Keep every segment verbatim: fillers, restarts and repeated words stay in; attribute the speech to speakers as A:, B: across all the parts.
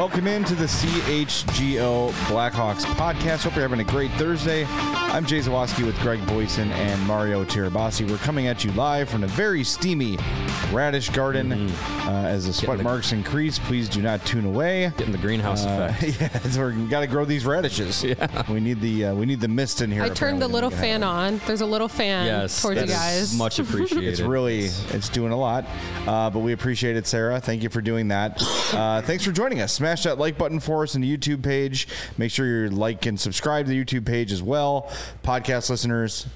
A: Welcome into the C H G O Blackhawks podcast. Hope you're having a great Thursday. I'm Jay Zawoski with Greg Boyson and Mario Tirabassi. We're coming at you live from a very steamy Radish Garden. Mm-hmm. Uh, as the sweat the, marks increase, please do not tune away.
B: Getting the greenhouse uh, effect.
A: Yeah, so we got to grow these radishes. Yeah. We need the uh, we need the mist in here.
C: I turned the little fan on. There's a little fan
B: yes,
C: towards you guys.
B: Much appreciated.
A: It's really it's doing a lot, uh, but we appreciate it, Sarah. Thank you for doing that. Uh, thanks for joining us. Smash that like button for us on the YouTube page. Make sure you like and subscribe to the YouTube page as well. Podcast listeners,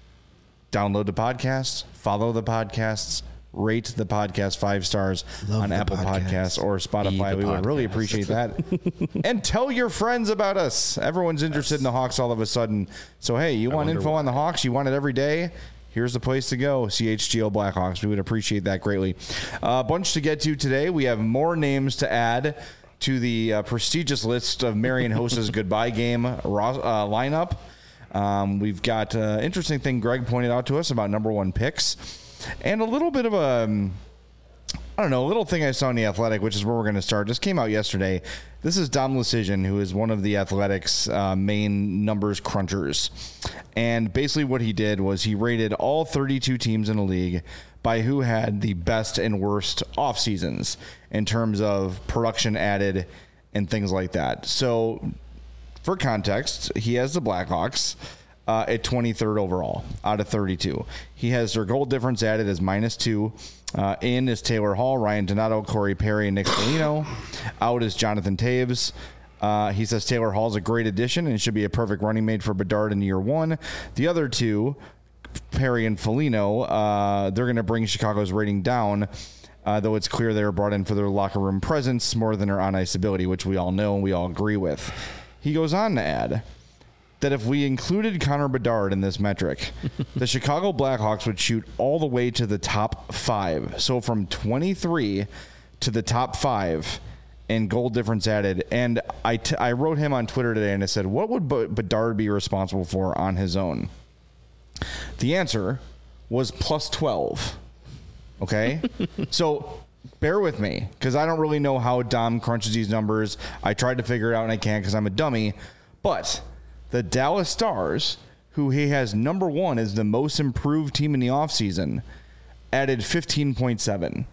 A: download the podcast, follow the podcasts, rate the podcast five stars Love on Apple podcast. Podcasts or Spotify. We podcast. Would really appreciate that. And tell your friends about us. Everyone's interested yes. in the Hawks all of a sudden. So, hey, you I want info why. on the Hawks? You want it every day? Here's the place to go, C H G O Blackhawks. We would appreciate that greatly. A uh, bunch to get to today. We have more names to add to the uh, prestigious list of Marian Hossa's goodbye game uh, lineup. Um, we've got an uh, interesting thing Greg pointed out to us about number one picks. And a little bit of a, um, I don't know, a little thing I saw in The Athletic, which is where we're going to start. Just came out yesterday. This is Dom Lucian, who is one of The Athletic's uh, main numbers crunchers. And basically what he did was he rated all thirty-two teams in the league by who had the best and worst off seasons in terms of production added and things like that. So for context, he has the Blackhawks uh, at twenty-third overall out of thirty-two. He has their goal difference added as minus two. Uh, in is Taylor Hall, Ryan Donato, Corey Perry, and Nick Foligno. Out is Jonathan Toews. Uh, he says Taylor Hall is a great addition and should be a perfect running mate for Bedard in year one. The other two, Perry and Foligno, uh, they're going to bring Chicago's rating down, uh, though it's clear they were brought in for their locker room presence more than their on-ice ability, which we all know and we all agree with. He goes on to add that if we included Connor Bedard in this metric, the Chicago Blackhawks would shoot all the way to the top five. So from twenty-three to the top five in goal difference added. And I, t- I wrote him on Twitter today and I said, what would B- Bedard be responsible for on his own? The answer was plus twelve. Okay? So bear with me because I don't really know how Dom crunches these numbers. I tried to figure it out and I can't because I'm a dummy. But the Dallas Stars, who he has number one as the most improved team in the offseason, added fifteen point seven.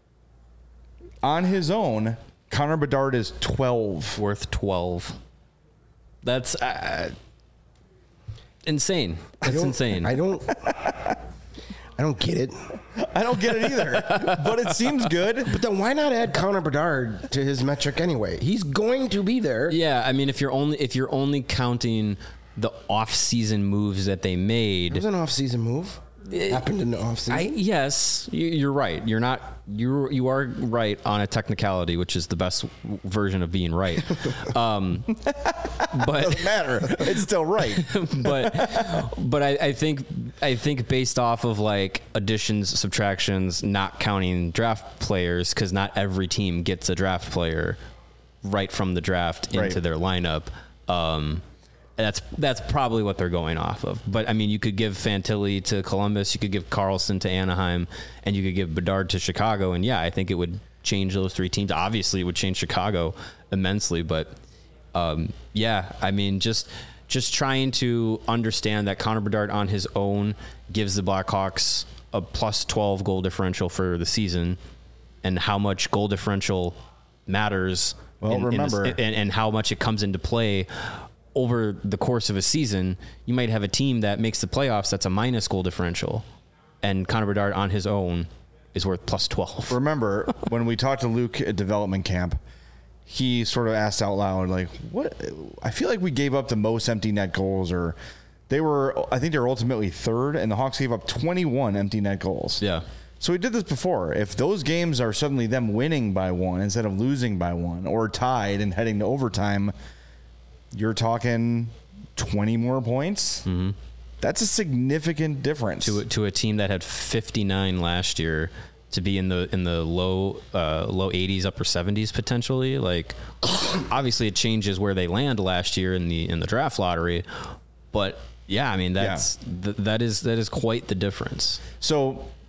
A: On his own, Connor Bedard is twelve.
B: Worth twelve. That's uh, insane. That's
D: I
B: insane.
D: I don't... I don't get it.
A: I don't get it either, but it seems good.
D: But then why not add Connor Bedard to his metric anyway? He's going to be there.
B: Yeah, I mean, if you're only if you're only counting the off-season moves that they made,
D: it was an off-season move. It happened in the off-season.
B: I, yes, you, you're right. You're not. You you are right on a technicality, which is the best version of being right. Um, but
A: doesn't matter. It's still right.
B: but but I, I think I think based off of like additions, subtractions, not counting draft players, because not every team gets a draft player right from the draft into
A: right.
B: their lineup. Um, That's that's probably what they're going off of. But, I mean, you could give Fantilli to Columbus, you could give Carlson to Anaheim, and you could give Bedard to Chicago. And, yeah, I think it would change those three teams. Obviously, it would change Chicago immensely. But, um, yeah, I mean, just just trying to understand that Connor Bedard on his own gives the Blackhawks a plus twelve goal differential for the season, and how much goal differential matters
A: well,
B: in,
A: remember.
B: in this, and, and how much it comes into play over the course of a season. You might have a team that makes the playoffs that's a minus goal differential, and Connor Bedard on his own is worth plus twelve.
A: Remember, when we talked to Luke at development camp, he sort of asked out loud, like, "What? I feel like we gave up the most empty net goals, or they were, I think they were ultimately third, and the Hawks gave up twenty-one empty net goals."
B: Yeah.
A: So we did this before. If those games are suddenly them winning by one instead of losing by one, or tied and heading to overtime, you're talking twenty more points.
B: Mm-hmm.
A: That's a significant difference
B: to a, to a team that had fifty-nine last year to be in the in the low uh, low eighties, upper seventies potentially. Like, obviously, it changes where they land last year in the in the draft lottery, but yeah, I mean that's yeah. th- that is that is quite the difference.
A: So,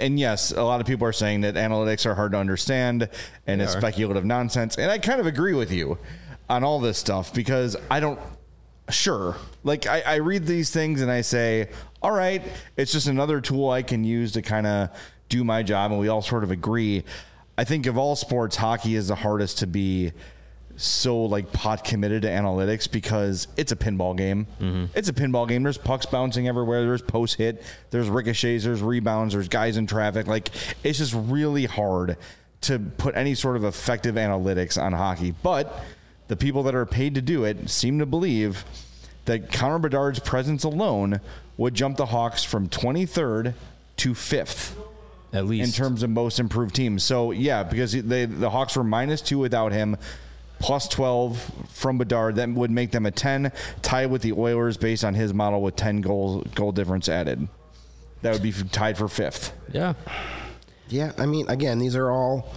A: and yes, a lot of people are saying that analytics are hard to understand and it's speculative nonsense. And I kind of agree with you on all this stuff because I don't, sure. Like I, I read these things and I say, all right, it's just another tool I can use to kind of do my job. And we all sort of agree. I think of all sports, hockey is the hardest to be so like pot committed to analytics because it's a pinball game. Mm-hmm. It's a pinball game. There's pucks bouncing everywhere. There's post hit. There's ricochets. There's rebounds. There's guys in traffic. Like it's just really hard to put any sort of effective analytics on hockey. But the people that are paid to do it seem to believe that Connor Bedard's presence alone would jump the Hawks from twenty-third to fifth.
B: At least.
A: In terms of most improved teams. So, yeah, because they, the Hawks were minus two without him, plus twelve from Bedard. That would make them a ten, tied with the Oilers based on his model with ten goals, goal difference added. That would be tied for fifth.
B: Yeah.
D: Yeah, I mean, again, these are all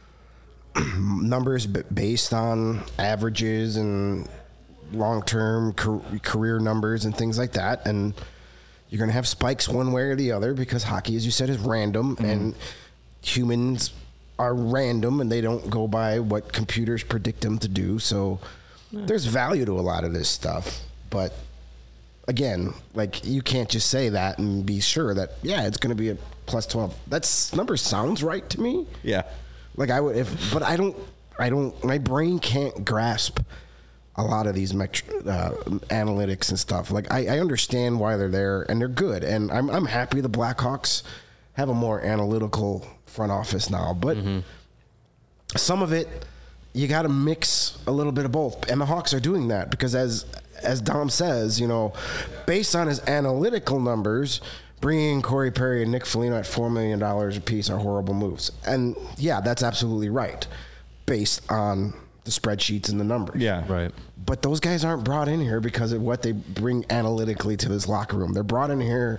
D: numbers based on averages and long-term career numbers and things like that. And you're going to have spikes one way or the other because hockey, as you said, is random, mm-hmm. and humans are random, and they don't go by what computers predict them to do. So yeah. there's value to a lot of this stuff. But again, like you can't just say that and be sure that, yeah, it's going to be a plus twelve. That's number sounds right to me.
A: Yeah.
D: Like I would, if, but I don't, I don't, my brain can't grasp a lot of these metri- uh, analytics and stuff. Like I, I understand why they're there and they're good, and I'm I'm happy the Blackhawks have a more analytical front office now. But mm-hmm. some of it you got to mix a little bit of both, and the Hawks are doing that because as as Dom says, you know, based on his analytical numbers, bringing Corey Perry and Nick Foligno at four million dollars apiece are horrible moves. And yeah, that's absolutely right, based on the spreadsheets and the numbers.
A: Yeah,
B: right.
D: But those guys aren't brought in here because of what they bring analytically to this locker room. They're brought in here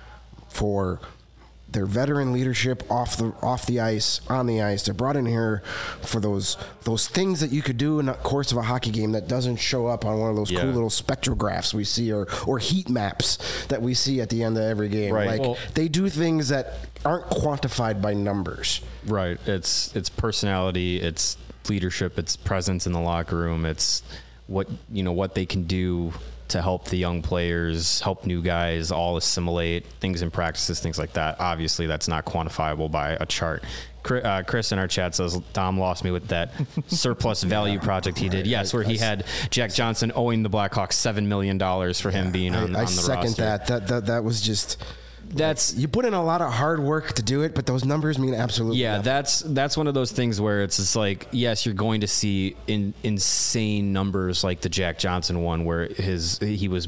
D: for their veteran leadership off the off the ice, on the ice. They're brought in here for those those things that you could do in the course of a hockey game that doesn't show up on one of those yeah. cool little spectrographs we see, or or heat maps that we see at the end of every game.
A: Right.
D: Like
B: well,
D: they do things that aren't quantified by numbers.
B: Right. It's it's personality, it's leadership, it's presence in the locker room, it's what you know what they can do to help the young players, help new guys all assimilate things in practices, things like that. Obviously, that's not quantifiable by a chart. Uh, Chris in our chat says Dom lost me with that surplus value yeah, project he did. Yes, where he had Jack Johnson owing the Blackhawks seven million dollars for him yeah, being on,
D: I, I
B: on the roster. I
D: second that. That that that was just.
B: That's
D: you put in a lot of hard work to do it, but those numbers mean absolutely
B: yeah.
D: nothing.
B: That's that's one of those things where it's just like, yes, you're going to see in, insane numbers like the Jack Johnson one, where his he was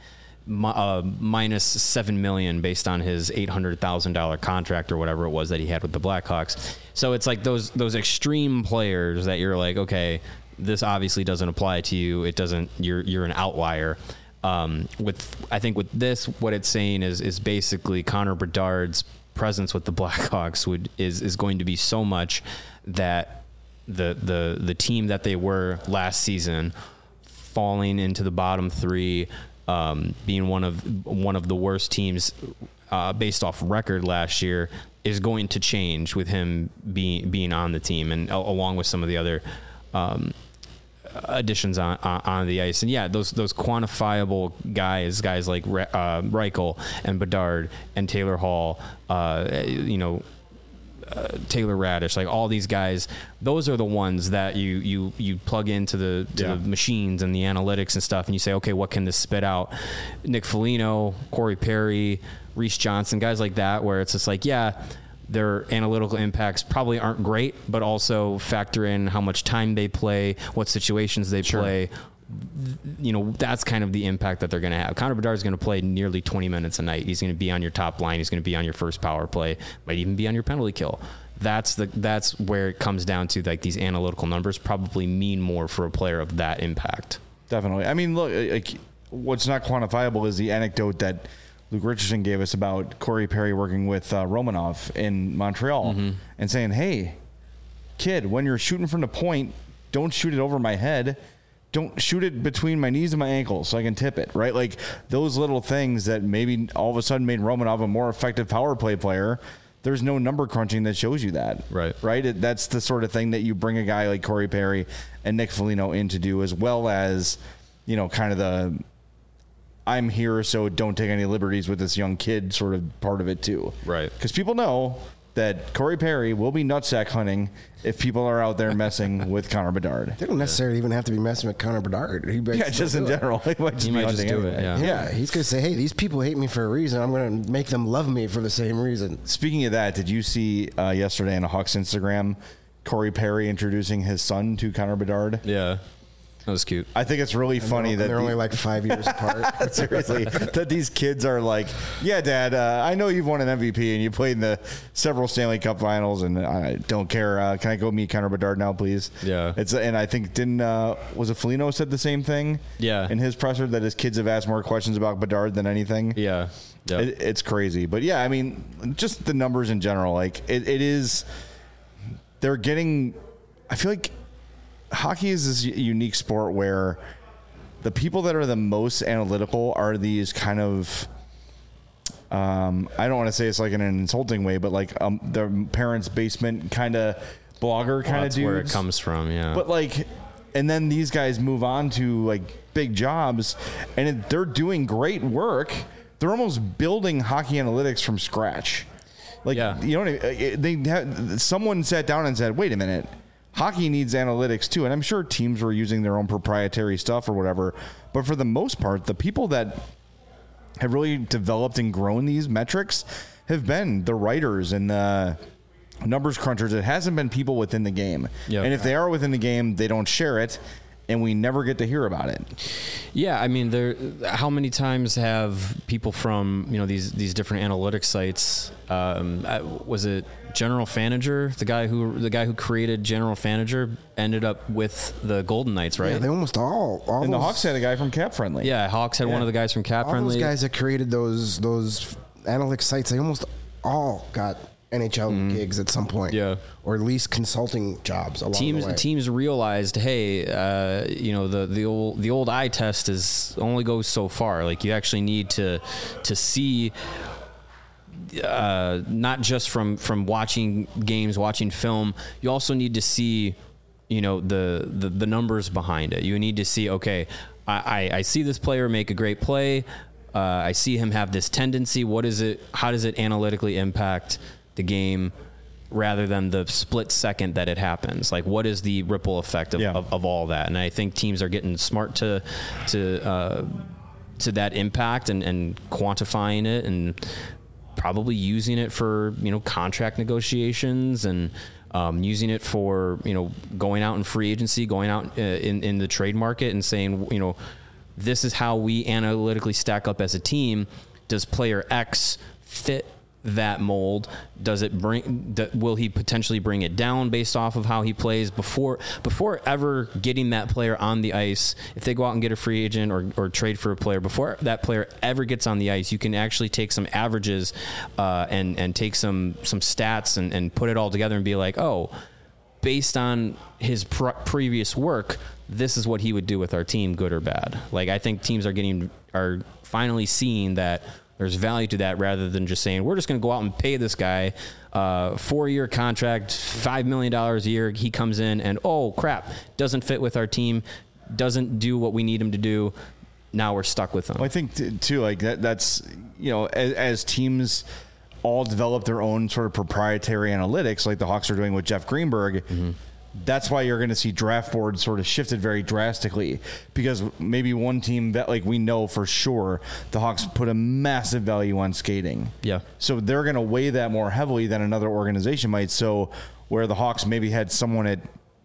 B: uh, minus seven million based on his eight hundred thousand dollar contract or whatever it was that he had with the Blackhawks. So it's like those those extreme players that you're like, okay, this obviously doesn't apply to you. It doesn't. You're you're an outlier. Um, with I think with this, what it's saying is is basically Connor Bedard's presence with the Blackhawks would is is going to be so much that the the the team that they were last season, falling into the bottom three, um, being one of one of the worst teams uh, based off record last year, is going to change with him being being on the team, and along with some of the other Um, additions on, on on the ice. And yeah, those those quantifiable guys, guys like uh, Reichel and Bedard and Taylor Hall, uh, you know, uh, Taylor Radish, like all these guys, those are the ones that you you you plug into the to yeah. the machines and the analytics and stuff, and you say, okay, what can this spit out? Nick Foligno, Corey Perry, Reese Johnson, guys like that, where it's just like, yeah, their analytical impacts probably aren't great, but also factor in how much time they play, what situations they sure. play. You know, that's kind of the impact that they're going to have. Connor Bedard is going to play nearly twenty minutes a night. He's going to be on your top line. He's going to be on your first power play, might even be on your penalty kill. That's the that's where it comes down to, like, these analytical numbers probably mean more for a player of that impact.
A: Definitely. I mean, look, like, what's not quantifiable is the anecdote that Luke Richardson gave us about Corey Perry working with uh, Romanov in Montreal mm-hmm. and saying, hey, kid, when you're shooting from the point, don't shoot it over my head. Don't shoot it between my knees and my ankles so I can tip it, right? Like those little things that maybe all of a sudden made Romanov a more effective power play player there's no number crunching that shows you that.
B: Right.
A: Right. It, that's the sort of thing that you bring a guy like Corey Perry and Nick Foligno in to do, as well as, you know, kind of the I'm here, so don't take any liberties with this young kid sort of part of it too.
B: Right.
A: Because people know that Corey Perry will be nutsack hunting if people are out there messing with Connor Bedard.
D: They don't necessarily even have to be messing with Connor Bedard. He might
A: Yeah,
D: still
A: just
D: do
A: in
D: it.
A: general. He might just,
B: He
A: be
B: might just
A: hunting
B: do it,
A: anyway.
B: yeah.
D: Yeah, he's going to say, hey, these people hate me for a reason. I'm going to make them love me for the same reason.
A: Speaking of that, did you see uh, yesterday on a Hawks Instagram, Corey Perry introducing his son to Connor Bedard?
B: Yeah. That was cute.
A: I think it's really funny
D: And
A: that
D: they're
A: the-
D: only like five years apart.
A: seriously, that these kids are like, yeah, Dad, uh, I know you've won an M V P and you played in the several Stanley Cup finals, and I don't care. Uh, can I go meet Connor Bedard now, please?
B: Yeah.
A: It's and I think didn't uh, was it Foligno said the same thing?
B: Yeah.
A: In his presser, that his kids have asked more questions about Bedard than anything.
B: Yeah. Yeah.
A: It, it's crazy, but yeah, I mean, just the numbers in general, like it, it is. They're getting. I feel like hockey is this unique sport where the people that are the most analytical are these kind of. Um, I don't want to say it's like in an insulting way, but like um, their parents' basement kind of blogger kind
B: Well,
A: of
B: that's
A: dudes.
B: where it comes from. Yeah.
A: But like, and then these guys move on to like big jobs, and it, they're doing great work. They're almost building hockey analytics from scratch. Like,
B: Yeah.
A: you know, what I mean? they have, someone sat down and said, "Wait a minute, hockey needs analytics too." And I'm sure teams were using their own proprietary stuff or whatever, but for the most part, the people that have really developed and grown these metrics have been the writers and the numbers crunchers. It hasn't been people within the game.
B: Yep.
A: And if they are within the game, they don't share it, and we never get to hear about it.
B: Yeah, I mean, there. How many times have people from you know these these different analytics sites? Um, uh, was it General Fanager, the guy who the guy who created General Fanager, ended up with the Golden Knights, right?
D: Yeah, they almost all. all
A: And the
D: those,
A: Hawks had a guy from Cap Friendly.
B: Yeah, Hawks had
A: Yeah.
B: one of the guys from Cap
D: all
B: Friendly.
D: those guys that created those those analytics sites, they almost all got N H L gigs at some point.
B: Yeah.
D: Or at least consulting jobs along
B: teams
D: the way.
B: teams realized, hey, uh, you know, the the old the old eye test is only goes so far. Like you actually need to to see. Uh, not just from, from watching games, watching film, you also need to see, you know, the, the, the numbers behind it. You need to see, okay, I, I, I see this player make a great play. Uh, I see him have this tendency. What is it? How does it analytically impact the game rather than the split second that it happens? Like, what is the ripple effect of,
A: Yeah.
B: of, of all that? And I think teams are getting smart to, to, uh, to that impact and, and quantifying it and probably using it for, you know, contract negotiations and um, using it for, you know, going out in free agency, going out uh, in, in the trade market and saying, you know, this is how we analytically stack up as a team. Does player X fit that mold? Does it bring, th- will he potentially bring it down based off of how he plays before, before ever getting that player on the ice? If they go out and get a free agent or, or trade for a player, before that player ever gets on the ice, you can actually take some averages uh, and, and take some, some stats and, and put it all together and be like, oh, based on his pr- previous work, this is what he would do with our team, good or bad. Like, I think teams are getting, are finally seeing that there's value to that rather than just saying, we're just going to go out and pay this guy uh four-year contract, five million dollars a year. He comes in and, oh, crap, doesn't fit with our team, doesn't do what we need him to do. Now we're stuck with him.
A: Well, I think t- too, like that, that's, you know, as, as teams all develop their own sort of proprietary analytics, like the Hawks are doing with Jeff Greenberg. Mm-hmm. That's why you're going to see draft boards sort of shifted very drastically, because maybe one team that, like, we know for sure the Hawks put a massive value on skating.
B: Yeah.
A: So they're going to weigh that more heavily than another organization might. So where the Hawks maybe had someone at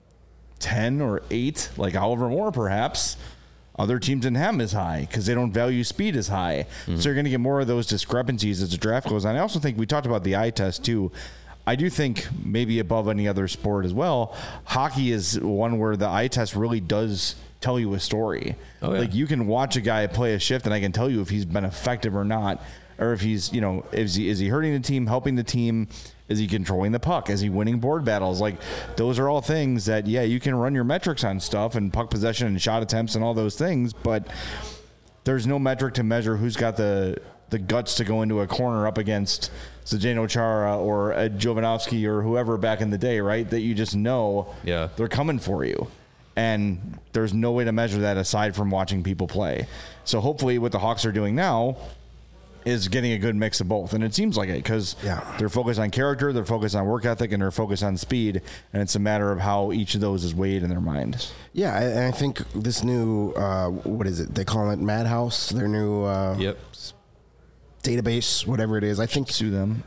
A: ten or eight, like Oliver Moore, perhaps, other teams didn't have him as high because they don't value speed as high. Mm-hmm. So you're going to get more of those discrepancies as the draft goes on. I also think we talked about the eye test too. I do think maybe above any other sport as well, hockey is one where the eye test really does tell you a story.
B: Oh, yeah.
A: Like, you can watch a guy play a shift and I can tell you if he's been effective or not, or if he's, you know, is he, is he hurting the team, helping the team? Is he controlling the puck? Is he winning board battles? Like, those are all things that, yeah, you can run your metrics on stuff and puck possession and shot attempts and all those things, but there's no metric to measure who's got the the guts to go into a corner up against Zdeno Chara or a Jovanovski or whoever back in the day, right? That you just know
B: Yeah.
A: they're coming for you. And there's no way to measure that aside from watching people play. So hopefully what the Hawks are doing now is getting a good mix of both. And it seems like it because
D: Yeah.
A: they're focused on character, they're focused on work ethic, and they're focused on speed. And it's a matter of how each of those is weighed in their mind.
D: Yeah, I- and I think this new, uh, what is it? They call it Madhouse, their new uh,
B: Yep.
D: database, whatever it is. I think,
A: Sue them.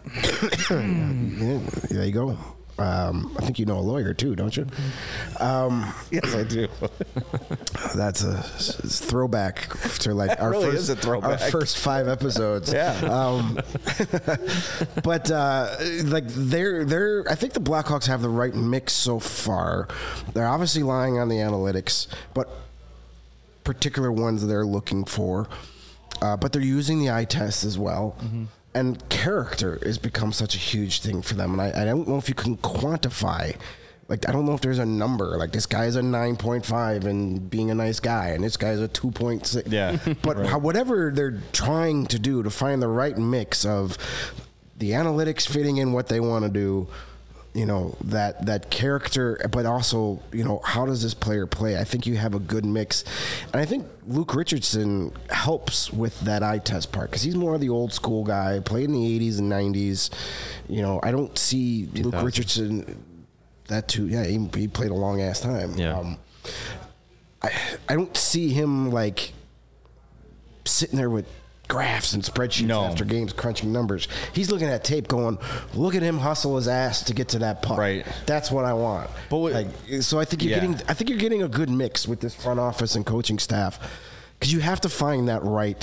D: yeah, there you go. Um, I think you know a lawyer too, don't you? Um,
A: Yes, I do.
D: that's a s- throwback to like our
A: really
D: first,
A: is a throwback.
D: our first five episodes.
A: Yeah.
D: Um, but uh, like they're they're I think the Blackhawks have the right mix so far. They're obviously lying on the analytics, but particular ones they're looking for. Uh, but they're using the eye test as well.
A: Mm-hmm.
D: And character has become such a huge thing for them. And I, I don't know if you can quantify. Like, I don't know if there's a number. Like, this guy's a nine point five and being a nice guy, and this guy's a two point six.
A: Yeah.
D: But
A: Right.
D: how, whatever they're trying to do to find the right mix of the analytics fitting in what they want to do, you know, that that character, but also, you know, how does this player play? I think you have a good mix. And I think Luke Richardson helps with that eye test part because he's more of the old school guy, played in the eighties and nineties. You know, I don't see Luke
B: thousands.
D: Richardson that too. Yeah, he, he played a long ass time.
B: Yeah.
D: Um, I, I don't see him like sitting there with graphs and spreadsheets
A: No.
D: after games crunching numbers. He's looking at tape going, look at him hustle his ass to get to that puck.
A: Right.
D: That's what I want.
A: But what-
D: like, so I think you're
A: Yeah.
D: getting I think you're getting a good mix with this front office and coaching staff because you have to find that right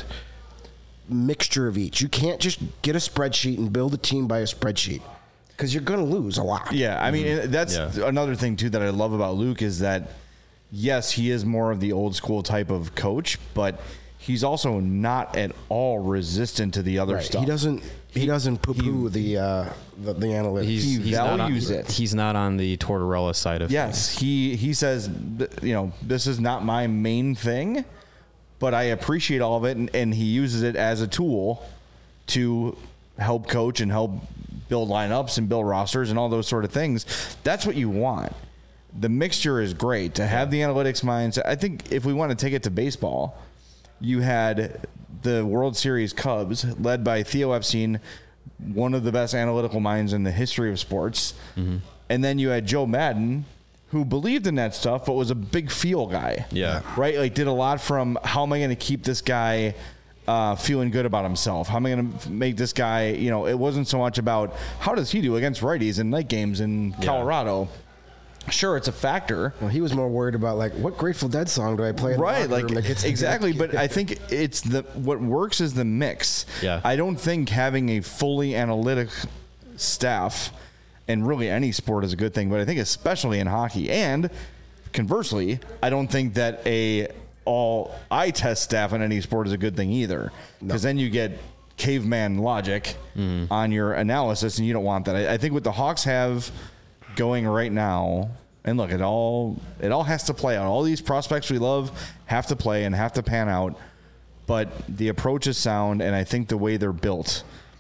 D: mixture of each. You can't just get a spreadsheet and build a team by a spreadsheet because you're going to lose a lot.
A: Yeah, I mean, and that's
B: Yeah.
A: another thing, too, that I love about Luke is that, yes, he is more of the old school type of coach, but he's also not at all resistant to the other
D: Right.
A: stuff.
D: He doesn't he doesn't poo poo the, uh, the the analytics.
B: He's,
A: He
B: he's not on,
A: values it.
B: He's not on the Tortorella side of
A: Yes,
B: things.
A: he he says, you know, this is not my main thing, but I appreciate all of it, and, and he uses it as a tool to help coach and help build lineups and build rosters and all those sort of things. That's what you want. The mixture is great to have the analytics minds. I think if we want to take it to baseball, you had the World Series Cubs led by Theo Epstein, one of the best analytical minds in the history of sports.
B: Mm-hmm.
A: And then you had Joe Madden, who believed in that stuff, but was a big feel guy.
B: Yeah.
A: Right? Like, did a lot from how am I going to keep this guy uh, feeling good about himself? How am I going to make this guy, you know, it wasn't so much about how does he do against righties in night games in Colorado. Sure, it's a factor.
D: Well, he was more worried about like what Grateful Dead song do I play in
A: Right,
D: the locker
A: like
D: room that gets the-
A: exactly. But I think it's the what works is the mix.
B: Yeah.
A: I don't think having a fully analytic staff, and really any sport is a good thing, but I think especially in hockey, and conversely, I don't think that a all eye test staff in any sport is a good thing either, because then you get caveman logic on your analysis, and you don't want that. I, I think what the Hawks have going right now, and look, it all it all has to play out. All these prospects we love have to play and have to pan out, but the approach is sound, and I think the way they're built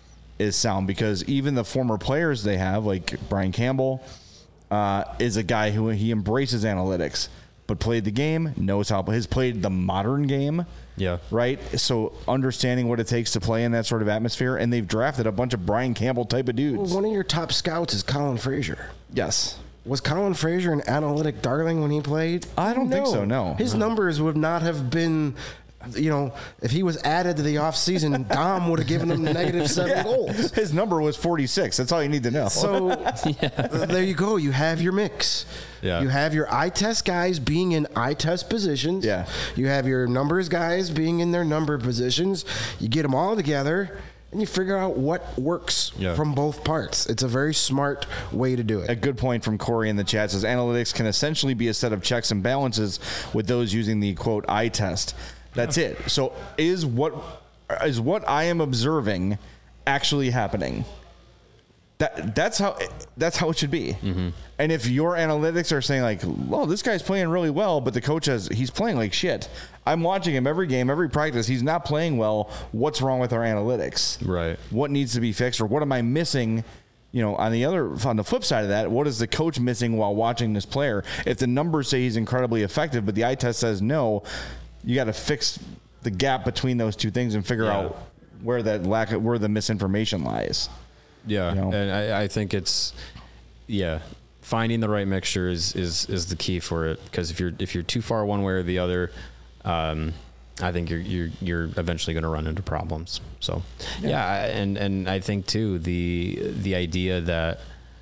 A: is sound because even the former players they have, like Brian Campbell, uh, is a guy who he embraces analytics, but played the game, knows how has played the modern game.
B: Yeah.
A: Right. So understanding what it takes to play in that sort of atmosphere, and they've drafted a bunch of Brian Campbell type of dudes.
D: One of your top scouts is Colin Frazier.
A: Yes.
D: Was Colin Frazier an analytic darling when he played?
A: I don't think so, no.
D: His numbers would not have been, you know, if he was added to the offseason, Dom would have given him negative seven goals.
A: His number was forty-six. That's all you need to know.
D: So there you go. You have your mix.
B: Yeah.
D: You have your eye test guys being in eye test positions.
A: Yeah.
D: You have your numbers guys being in their number positions. You get them all together and you figure out what works
B: Yeah.
D: from both parts. It's a very smart way to do it.
A: A good point from Corey in the chat says analytics can essentially be a set of checks and balances with those using the quote eye test. That's it. So is what is what I am observing actually happening? That that's how that's how it should be. Mm-hmm. And if your analytics are saying like, "Well, this guy's playing really well," but the coach has he's playing like shit. I'm watching him every game, every practice. He's not playing well. What's wrong with our analytics?
B: Right.
A: What needs to be fixed, or what am I missing? You know, on the other on the flip side of that, what is the coach missing while watching this player? If the numbers say he's incredibly effective, but the eye test says no, you got to fix the gap between those two things and figure
B: Yeah.
A: out where that lack of, where the misinformation lies.
B: Yeah,
A: You know?
B: and I, I think it's yeah, finding the right mixture is is, is the key for it. Because if you're if you're too far one way or the other, um, I think you're you're you're eventually going to run into problems. So yeah. yeah, and and I think too the the idea that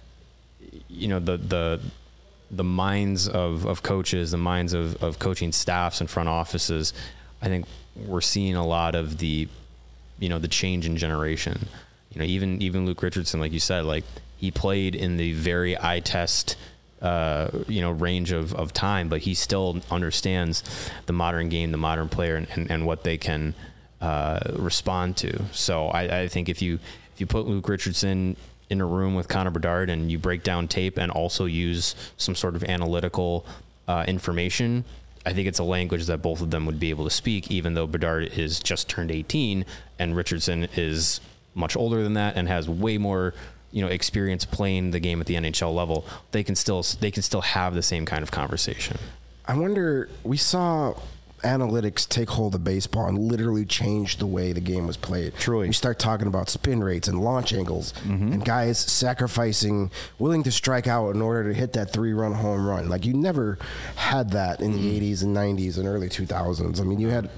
B: you know the the the minds of, of coaches, the minds of, of coaching staffs and front offices, I think we're seeing a lot of the you know the change in generation. You know, even even Luke Richardson, like you said, like he played in the very eye test, uh, you know, range of, of time, but he still understands the modern game, the modern player, and, and, and what they can uh, respond to. So I, I think if you if you put Luke Richardson in a room with Connor Bedard and you break down tape and also use some sort of analytical uh, information, I think it's a language that both of them would be able to speak, even though Bedard is just turned eighteen and Richardson is much older than that and has way more, you know, experience playing the game at the N H L level. They can still they can still have the same kind of conversation.
D: I wonder, we saw analytics take hold of baseball and literally change the way the game was played.
A: Truly.
D: We start talking about spin rates and launch angles mm-hmm. and guys sacrificing, willing to strike out in order to hit that three-run home run. Like, you never had that in mm-hmm. the eighties and nineties and early two thousands. I mean, you had,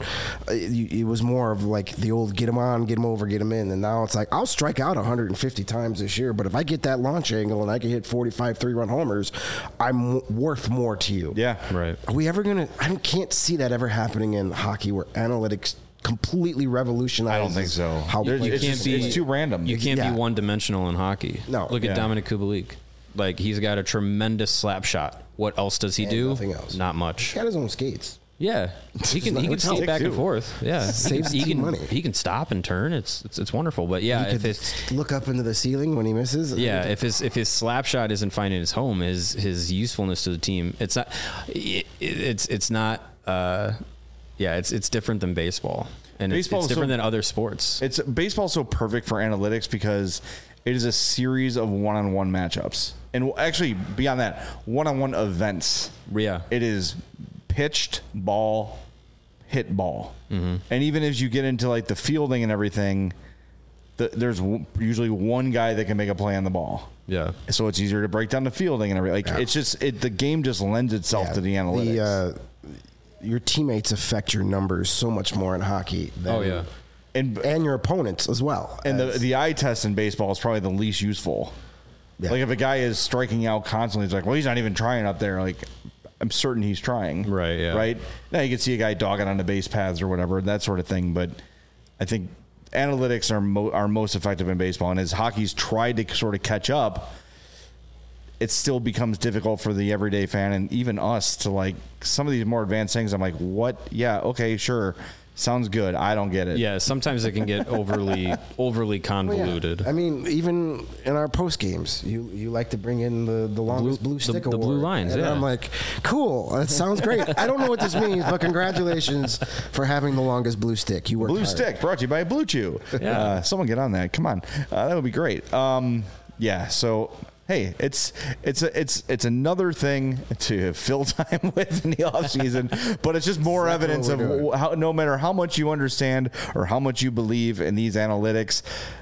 D: it was more of like the old get him on, get him over, get him in. And now it's like, I'll strike out one hundred fifty times this year, but if I get that launch angle and I can hit forty-five three-run homers, I'm worth more to you.
A: Yeah.
B: Right.
D: Are we ever going to, I can't see that ever happening in hockey where analytics completely revolutionizes.
A: I don't think so.
D: How
B: You, you
A: It's
B: can't
A: just-
B: be
A: it's too random.
B: You can't
D: Yeah.
B: be one dimensional in hockey.
D: No.
B: Look at
A: Yeah.
B: Dominic Kubalik. Like, he's got a tremendous slap shot. What else does he
D: And
B: do?
D: nothing else.
B: Not
D: He
B: much.
D: got his own skates.
B: Yeah, he can he can
D: It's
B: skate
D: sick,
B: back and
A: too.
B: forth. Yeah,
D: Saves
B: he
D: team
B: can
D: money.
B: he can stop and turn. It's it's, it's wonderful. But yeah,
D: You
B: if
D: could
B: it's
D: look up into the ceiling when he misses.
B: yeah, if his if his slap shot isn't finding his home, his his usefulness to the team, it's not. It, it's it's not. Uh, yeah, it's it's different than baseball, and it's,
A: Baseball
B: it's
A: is
B: different
A: so-
B: than other sports.
A: It's baseball's so perfect for analytics because it is a series of one-on-one matchups, and actually beyond that, one-on-one events.
B: Yeah,
A: It is pitched ball, hit ball,
B: Mm-hmm.
A: and even as you get into like the fielding and everything, the, there's w- usually one guy that can make a play on the ball.
B: yeah.
A: So it's easier to break down the fielding and everything. Like
D: Yeah.
A: it's just it, the game just lends itself
D: Yeah,
A: to the analytics.
D: The, uh, your teammates affect your numbers so much more in hockey. Than,
B: Oh yeah.
A: and
D: and your opponents as well.
A: and the
D: as-
A: the eye test in baseball is probably the least useful.
D: Yeah.
A: Like if a guy is striking out constantly, it's like, well, he's not even trying up there. Like I'm certain he's trying.
B: Right, yeah.
A: Right. Now you can see a guy dogging on the base paths or whatever, that sort of thing. But I think analytics are mo- are most effective in baseball, and as hockey's tried to sort of catch up, it still becomes difficult for the everyday fan and even us to like some of these more advanced things. I'm like, what? Yeah, okay, sure, sounds good. I don't get it.
B: Yeah, sometimes it can get overly overly
D: Well, yeah.
B: convoluted.
D: I mean, even in our post games, you you like to bring in the, the longest blue,
B: the-
D: stick
B: the
D: award.
B: blue lines,
D: and
B: yeah.
D: I'm like, cool, that sounds great. I don't know what this means, but congratulations for having the longest blue stick. You worked
A: Blue
D: hard.
A: Stick brought to you by Blue Chew.
B: Yeah.
A: Uh, someone get on that. Come on. Uh, that would be great. Um, yeah. So, hey, it's it's a, it's it's another thing to fill time with in the off season, but it's just more
D: Exactly
A: evidence
D: what
A: of
D: we're doing.
A: how, no matter how much you understand or how much you believe in these analytics,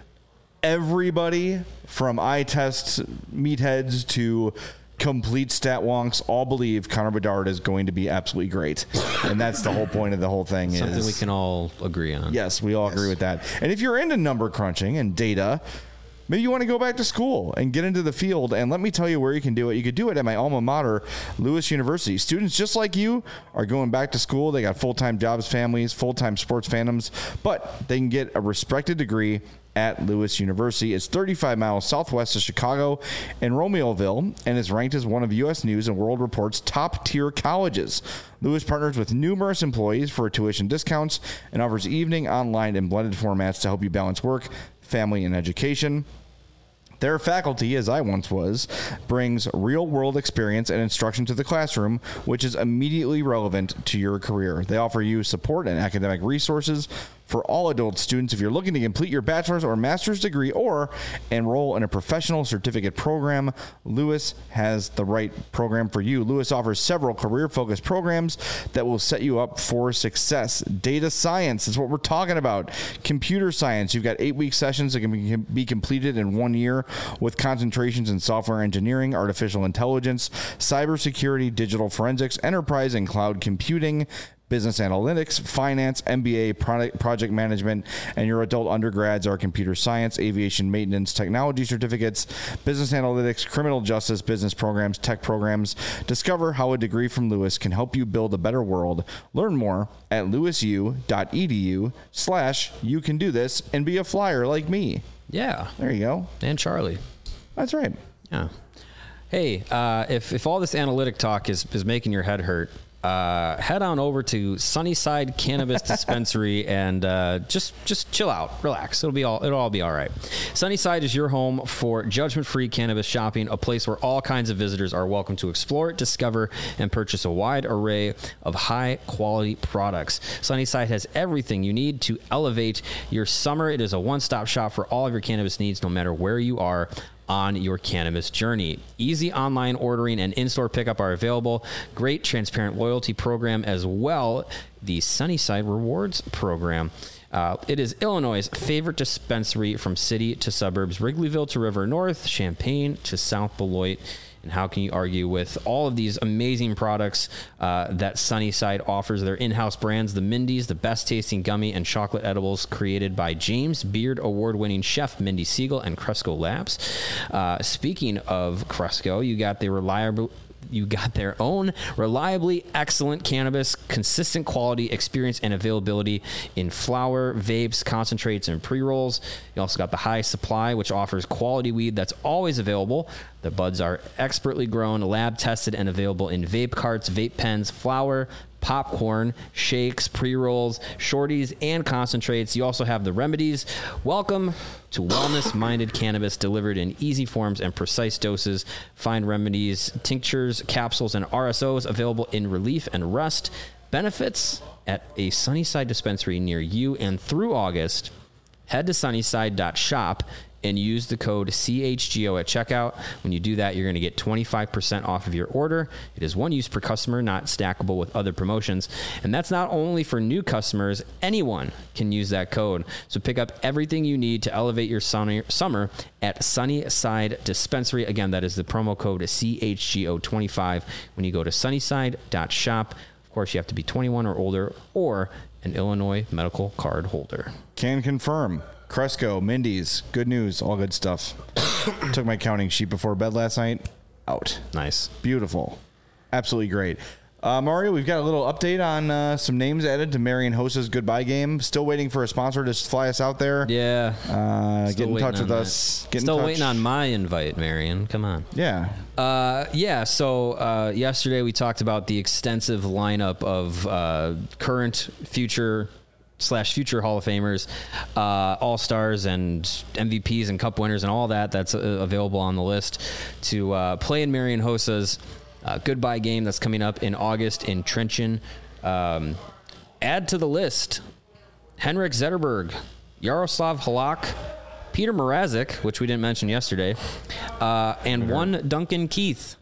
A: everybody from eye tests, meatheads to complete stat wonks all believe Connor Bedard is going to be absolutely great. And that's the whole point of the whole thing.
B: Something
A: is,
B: we can all agree on.
A: Yes, we all agree with that. And if you're into number crunching and data, maybe you want to go back to school and get into the field. And let me tell you where you can do it. You could do it at my alma mater, Lewis University. Students just like you are going back to school. They got full-time jobs, families, full-time sports fandoms, but they can get a respected degree at Lewis University. It's thirty-five miles southwest of Chicago in Romeoville and is ranked as one of U S News and World Report's top-tier colleges. Lewis partners with numerous employees for tuition discounts and offers evening, online, and blended formats to help you balance work, family, and education. Their faculty, as I once was, brings real-world experience and instruction to the classroom, which is immediately relevant to your career. They offer you support and academic resources for all adult students if you're looking to complete your bachelor's or master's degree or enroll in a professional certificate program. Lewis has the right program for you. Lewis offers several career-focused programs that will set you up for success. Data science is what we're talking about. Computer science. You've got eight-week sessions that can be completed in one year with concentrations in software engineering, artificial intelligence, cybersecurity, digital forensics, enterprise and cloud computing, business analytics, finance, M B A, product, project management, and your adult undergrads are computer science, aviation maintenance, technology certificates, business analytics, criminal justice, business programs, tech programs. Discover how a degree from Lewis can help you build a better world. Learn more at lewisu.edu slash you can do this and be a flyer like me.
B: Yeah.
A: There you go.
B: And Charlie.
A: That's right.
B: Yeah. Hey, uh, if, if all this analytic talk is, is making your head hurt, Uh, head on over to Sunnyside Cannabis Dispensary and uh, just just chill out, relax. It'll be all it'll all be all right. Sunnyside is your home for judgment-free cannabis shopping, a place where all kinds of visitors are welcome to explore, discover, and purchase a wide array of high-quality products. Sunnyside has everything you need to elevate your summer. It is a one-stop shop for all of your cannabis needs, no matter where you are on your cannabis journey. Easy online ordering and in-store pickup are available. Great transparent loyalty program as well. The Sunnyside Rewards program. Uh, it is Illinois' favorite dispensary from city to suburbs, Wrigleyville to River North, Champaign to South Beloit. And how can you argue with all of these amazing products uh, that Sunnyside offers? Their in-house brands, the Mindy's, the best tasting gummy and chocolate edibles created by James Beard award-winning chef Mindy Siegel and Cresco Labs. Uh, speaking of Cresco, you got the reliable... You got their own reliably excellent cannabis, consistent quality, experience, and availability in flower, vapes, concentrates, and pre-rolls. You also got the High Supply, which offers quality weed that's always available. The buds are expertly grown, lab tested, and available in vape carts, vape pens, flower, popcorn, shakes, pre-rolls, shorties, and concentrates. You also have the remedies. Welcome to wellness-minded cannabis delivered in easy forms and precise doses. Find remedies, tinctures, capsules, and R S Os available in relief and rest. Benefits at a Sunnyside dispensary near you. And through August, head to sunnyside dot shop and use the code C H G O at checkout. When you do that, you're going to get twenty-five percent off of your order. It is one use per customer, not stackable with other promotions. And that's not only for new customers. Anyone can use that code. So pick up everything you need to elevate your summer at Sunnyside Dispensary. Again, that is the promo code C H G O twenty-five when you go to sunnyside dot shop. Of course, you have to be twenty-one or older or an Illinois medical card holder.
A: Can confirm. Cresco, Mindy's, good news, all good stuff. Took my counting sheet before bed last night. Out.
B: Nice.
A: Beautiful. Absolutely great. Uh, Mario, we've got a little update on uh, some names added to Marion Hosa's goodbye game. Still waiting for a sponsor to fly us out there.
B: Yeah.
A: Uh, get in touch with that. us. Get
B: Still
A: in touch.
B: waiting on my invite, Marion. Come on.
A: Yeah.
B: Uh, yeah. So uh, yesterday we talked about the extensive lineup of uh, current, future, slash future Hall of Famers, uh, All-Stars and M V Ps and Cup winners and all that that's uh, available on the list to uh, play in Marion Hosa's uh, goodbye game that's coming up in August in Trenton. Um, add to the list Henrik Zetterberg, Yaroslav Halak, Peter Mrazek, which we didn't mention yesterday, uh, and one Duncan Keith.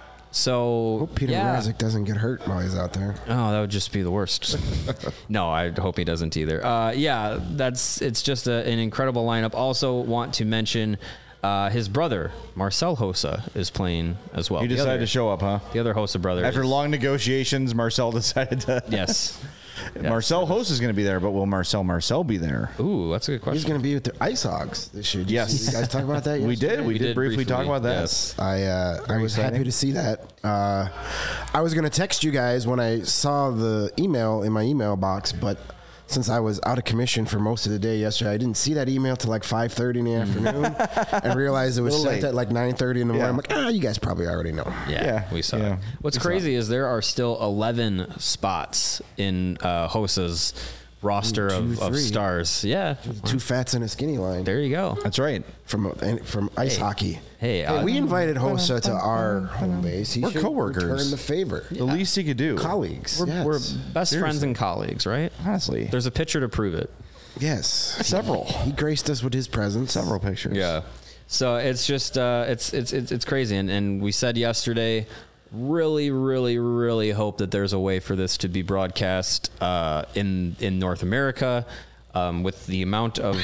B: So
D: Hope Peter
B: yeah.
D: Mrazek doesn't get hurt while he's out there.
B: Oh, that would just be the worst. No, I hope he doesn't either. Uh, yeah, that's it's just a, an incredible lineup. Also, want to mention uh, his brother Marcel Hosa is playing as well.
A: You decided
B: other,
A: to show up, huh?
B: The other Hosa brother.
A: After
B: is,
A: long negotiations, Marcel decided to.
B: Yes.
A: Marcel Hosa is going to be there, but will Marcel Marcel be there?
B: Ooh, that's a good question.
D: He's going to be with the Ice Hogs this year. Did
A: Yes.
D: you, see, you guys talk about that
A: We
D: yesterday?
A: did. We,
B: We
A: did,
B: did
A: briefly,
B: briefly,
A: talk about that.
B: yes.
D: I uh, I was
A: exciting.
D: happy to see that. Uh, I was going to text you guys when I saw the email in my email box, but since I was out of commission for most of the day yesterday, I didn't see that email till like five thirty in the afternoon and realized it was
A: Little
D: sent
A: late.
D: at like nine thirty in the morning.
A: Yeah.
D: I'm like, ah, you guys probably already know.
B: Yeah,
A: Yeah,
B: we saw
A: yeah.
B: it. What's
A: We saw
B: crazy is there are still eleven spots in uh, Hosa's roster
D: Two,
B: of, of
D: three.
B: stars. Yeah,
D: Two fats and a skinny line.
B: there you go.
A: That's right.
D: From from ice
B: Hey.
D: hockey.
B: Hey, uh,
D: we invited Hossa to our home base. He
A: We're
D: should
A: coworkers.
D: return the favor.
A: The least he could do.
D: Colleagues.
B: We're,
D: yes.
B: we're best
A: Seriously.
B: friends and colleagues, right?
A: Honestly,
B: There's a picture to prove it.
D: yes.
A: several.
D: He graced us with his presence.
A: Several pictures.
B: Yeah. So it's just uh, it's, it's it's it's crazy, and and we said yesterday, really, really, really hope that there's a way for this to be broadcast uh, in in North America, um, with the amount of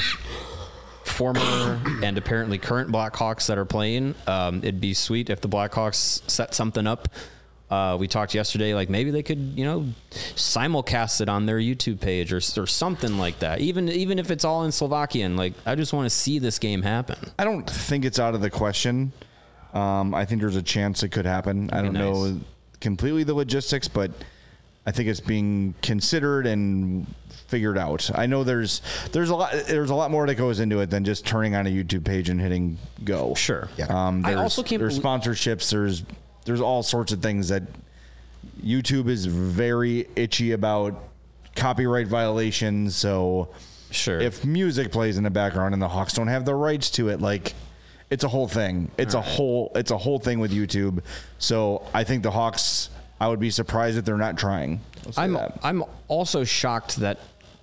B: former and apparently current Blackhawks that are playing. Um, it'd be sweet if the Blackhawks set something up. Uh, we talked yesterday, like maybe they could, you know, simulcast it on their YouTube page or or something like that. Even even if it's all in Slovakian, like I just want to see this game happen.
A: I don't think it's out of the question. Um, I think there's a chance it could happen. I
B: That'd
A: don't
B: be
A: know
B: nice.
A: completely the logistics, but I think it's being considered and figured out. I know there's there's a lot there's a lot more that goes into it than just turning on a YouTube page and hitting go.
B: Sure.
D: Yeah.
A: Um,
B: I
A: there's,
B: also can't
A: there's
B: belie-
A: sponsorships. There's there's all sorts of things that YouTube is very itchy about copyright violations. So
B: Sure.
A: if music plays in the background and the Hawks don't have the rights to it, like it's a whole thing. It's a whole it's a whole thing with YouTube. So I think the Hawks, I would be surprised if they're not trying. I'll say
B: I'm
A: that.
B: I'm also shocked that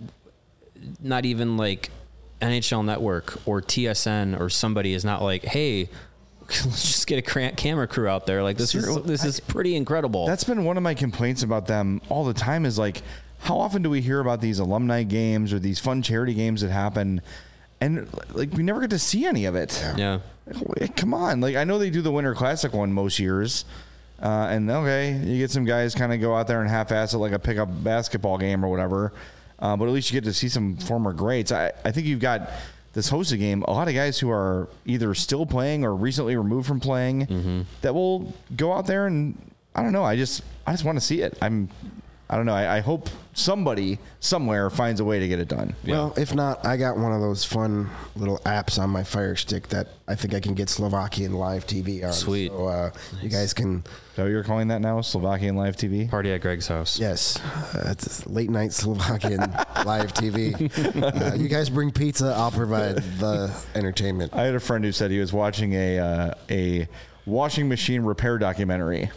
B: not even like N H L Network or T S N or somebody is not like, hey, let's just get a cra- camera crew out there. Like this is
A: Seriously,
B: this is pretty incredible.
A: That's been one of my complaints about them all the time is like, how often do we hear about these alumni games or these fun charity games that happen? And like, we never get to see any of it.
B: yeah.
A: Like, come on. Like, I know they do the Winter Classic one most years. Uh, and okay, you get some guys kind of go out there and half-ass it like a pickup basketball game or whatever. Uh, but at least you get to see some former greats. I, I think you've got this hosted game, a lot of guys who are either still playing or recently removed from playing
B: Mm-hmm.
A: that will go out there and I don't know. I just I just want to see it. I'm I don't know. I, I hope somebody somewhere finds a way to get it done.
D: Well, if not, I got one of those fun little apps on my Fire Stick that I think I can get Slovakian live T V on.
B: Sweet.
D: So uh, you guys can,
A: Is that what you're calling that now? Slovakian Live T V?
B: Party at Greg's house.
D: yes, uh, it's late night Slovakian live T V. Uh, you guys bring pizza, I'll provide the entertainment.
A: I had a friend who said he was watching a uh, a washing machine repair documentary.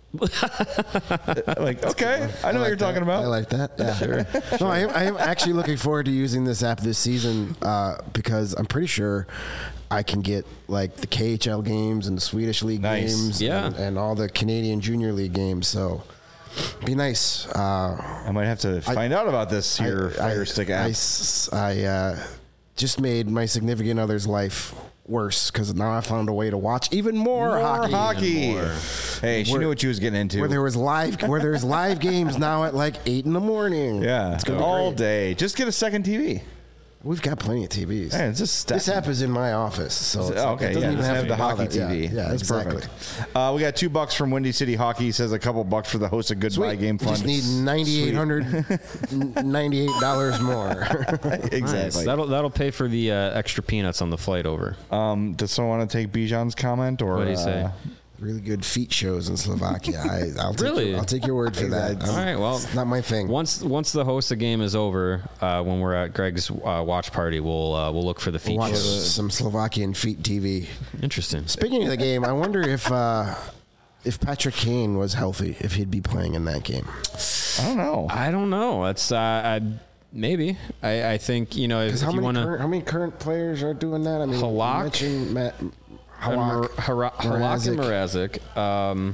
A: Like, okay, I know what
D: like
A: you're talking
D: that.
A: about.
D: I like that. Yeah. Sure. No, I am, I am actually looking forward to using this app this season uh, because I'm pretty sure I can get like the K H L games and the Swedish League
A: Nice.
D: games
B: Yeah.
D: and, and all the Canadian Junior League games. So be nice. Uh,
A: I might have to find out about this here Fire Stick
D: I,
A: app.
D: I s- I, uh, just made my significant other's life worse because now I found a way to watch even more,
A: More
D: hockey.
A: hockey. Hey, she
D: Where-
A: knew what she was getting into.
D: Where there was live, where there's live games now at like eight in the morning.
A: yeah,
D: it's gonna be
A: all
D: great.
A: day. Just get a second T V.
D: We've got plenty of T Vs.
A: Hey, it's just
D: This app is in my office, so it's,
A: Oh,
D: like,
A: okay,
D: it doesn't
A: yeah,
D: even
A: just
D: have,
A: have
D: to
A: the
D: be
A: hockey
D: bothered.
A: T V.
D: Yeah, yeah,
A: That's
D: exactly.
A: perfect. Uh, we got two bucks from Windy City Hockey. He says a couple bucks for the host of Goodbye
D: Sweet.
A: Game
D: We
A: Fund.
D: just need ninety-eight hundred ninety-eight dollars more.
A: exactly.
B: Nice. That'll that'll pay for the uh, extra peanuts on the flight over.
A: Um, does someone want to take Bijan's comment or
B: What do you say?
A: uh,
D: Really good feet shows in Slovakia. I, I'll take
B: Really?
D: your, I'll take your word for that.
B: All right. Well,
D: It's not my thing.
B: once once the host of game is over, uh, when we're at Greg's uh, watch party, we'll uh, we'll look for the feature.
D: Watch some Slovakian feet T V.
B: Interesting.
D: Speaking of the game, I wonder if uh, if Patrick Kane was healthy, if he'd be playing in that game.
A: I don't know.
B: I don't know. That's uh, I, maybe. I, I think you know if,
D: Because
B: if
D: how
B: you
D: many
B: want to.
D: current, how many current players are doing that? I mean, you
B: Halak?
D: mentioned Matt, Halak,
B: Halak and Mrazek. Um,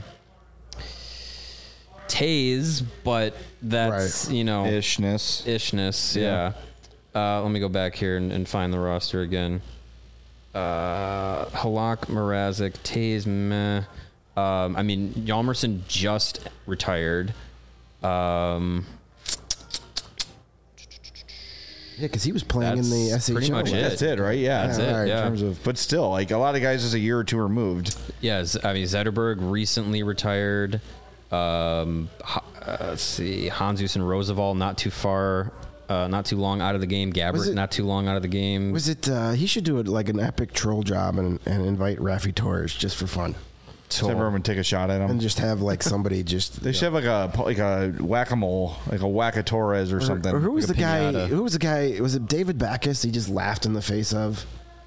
B: Taze, but that's
D: Right.
B: you know
A: Ishness.
B: ishness. Yeah. Uh, let me go back here and, and find the roster again. Uh, Halak, Mrazek, Taze, meh. Um, I mean, Yalmerson just retired. Um,
D: Yeah, because he was playing in the
B: That's
D: S H L.
B: pretty much it.
A: That's it, right? Yeah.
B: That's
D: it,
A: In
B: yeah.
A: terms of, but still, like a lot of guys is a year or two removed.
B: yeah, Z- I mean, Zetterberg recently retired. Um, Ha- uh, let's see, Hansus and Roosevelt not too far, uh, not too long out of the game.
D: Was
B: Gabbert
D: it-
B: not too long out of the game.
D: Was it? Uh, he should do it like an epic troll job and, and invite Rafi Torres just for fun.
A: So everyone would take a shot at him.
D: And just have like somebody just.
A: They should have like a like a whack-a-mole, like a whack-a-Torres or, or something.
D: Or who was
B: like
D: the guy?
B: pinata.
D: Who was the guy? Was it David Backus? He just laughed in the face of.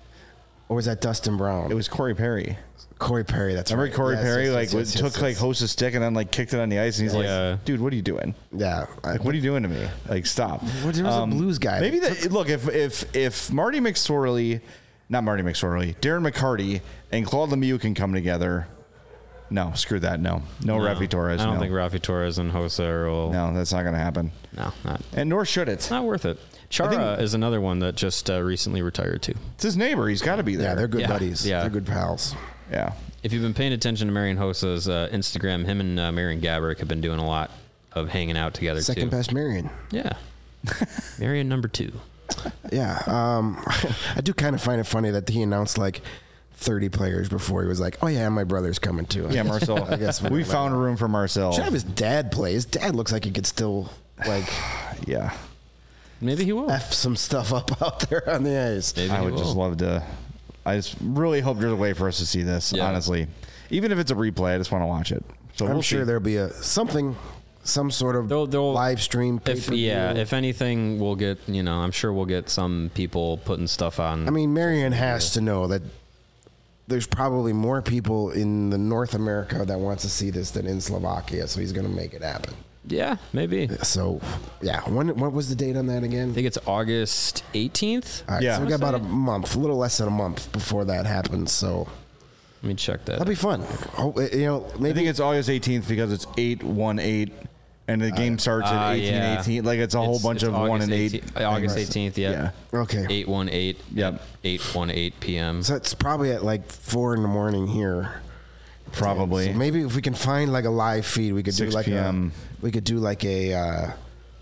D: Or was that Dustin Brown?
A: It was Corey Perry.
D: Corey Perry. That's
A: Remember
D: right.
A: Corey
D: Yes,
A: Perry
D: yes,
A: like
D: yes, yes,
A: took
D: yes,
A: like
D: yes.
A: host's stick and then like kicked it on the ice and he's
B: Yeah.
A: like, dude, what are you doing?
D: Yeah. I,
A: Like, what are you doing to me? Like, stop.
D: What- there was a blues guy
A: Maybe
D: that
A: that. Look, if if if Marty McSorley, not Marty McSorley, Darren McCarty and Claude Lemieux can come together. No, screw that. No, no,
B: No,
A: Rafi Torres.
B: I don't
A: no.
B: think Rafi Torres and Jose will.
A: No, that's not going to happen.
B: No, not.
A: And nor should it.
B: Not worth it. Chara
A: think-
B: is another one that just uh, recently retired too.
A: It's his neighbor. He's got to be there.
D: Yeah, they're good
B: Yeah,
D: buddies.
B: yeah.
D: They're good pals.
A: Yeah.
B: If you've been paying attention to Marion Hosa's uh, Instagram, him and uh, Marion Gabrick have been doing a lot of hanging out together
D: Second
B: too.
D: best Marion.
B: Yeah. Marion number two.
D: Yeah. Um, I do kind of find it funny that he announced like thirty players before he was like, oh, yeah, my brother's coming too.
A: Yeah, Marcel.
D: I guess
A: we found a room for Marcel.
D: Should have his dad play. His dad looks like he could still like
A: Yeah.
B: Maybe he will.
D: F some stuff up out there on the ice.
B: Maybe
A: I
B: he
A: would
B: will.
A: just love to. I just really hope there's a way for us to see this.
B: Yeah.
A: Honestly, even if it's a replay, I just want to watch it. So
D: I'm
A: we'll
D: sure
A: see.
D: there'll be a something, some sort of
B: They'll- they'll-
D: live stream.
B: If
D: pay-per-view.
B: yeah, if anything, we'll get you know. I'm sure we'll get some people putting stuff on.
D: I mean, Marion has to know that there's probably more people in the North America that wants to see this than in Slovakia, so he's going to make it happen.
B: yeah, maybe. I
D: So, yeah. When what was the date on that again?
B: think it's August eighteenth.
D: All right,
A: Yeah.
D: so we got about a month, a little less than a month before that happens. So
B: Let me check that.
D: that'll be fun. Oh, you know,
A: I
D: maybe
A: think it's August eighteenth because it's eight one eight, and the game starts
B: uh,
A: at eighteen
B: yeah.
A: eighteen. Like it's a whole
B: It's-
A: bunch
B: it's
A: of one
B: August
A: and eight.
B: eighteenth August eighteenth. Yeah.
D: okay.
B: Eight one eight.
A: Yep.
B: Eight one eight p.m.
D: So it's probably at like four in the morning here.
A: Probably.
D: So maybe if we can find like a live feed, we could do
A: six
D: like
A: p.m.
D: a we could do like a uh,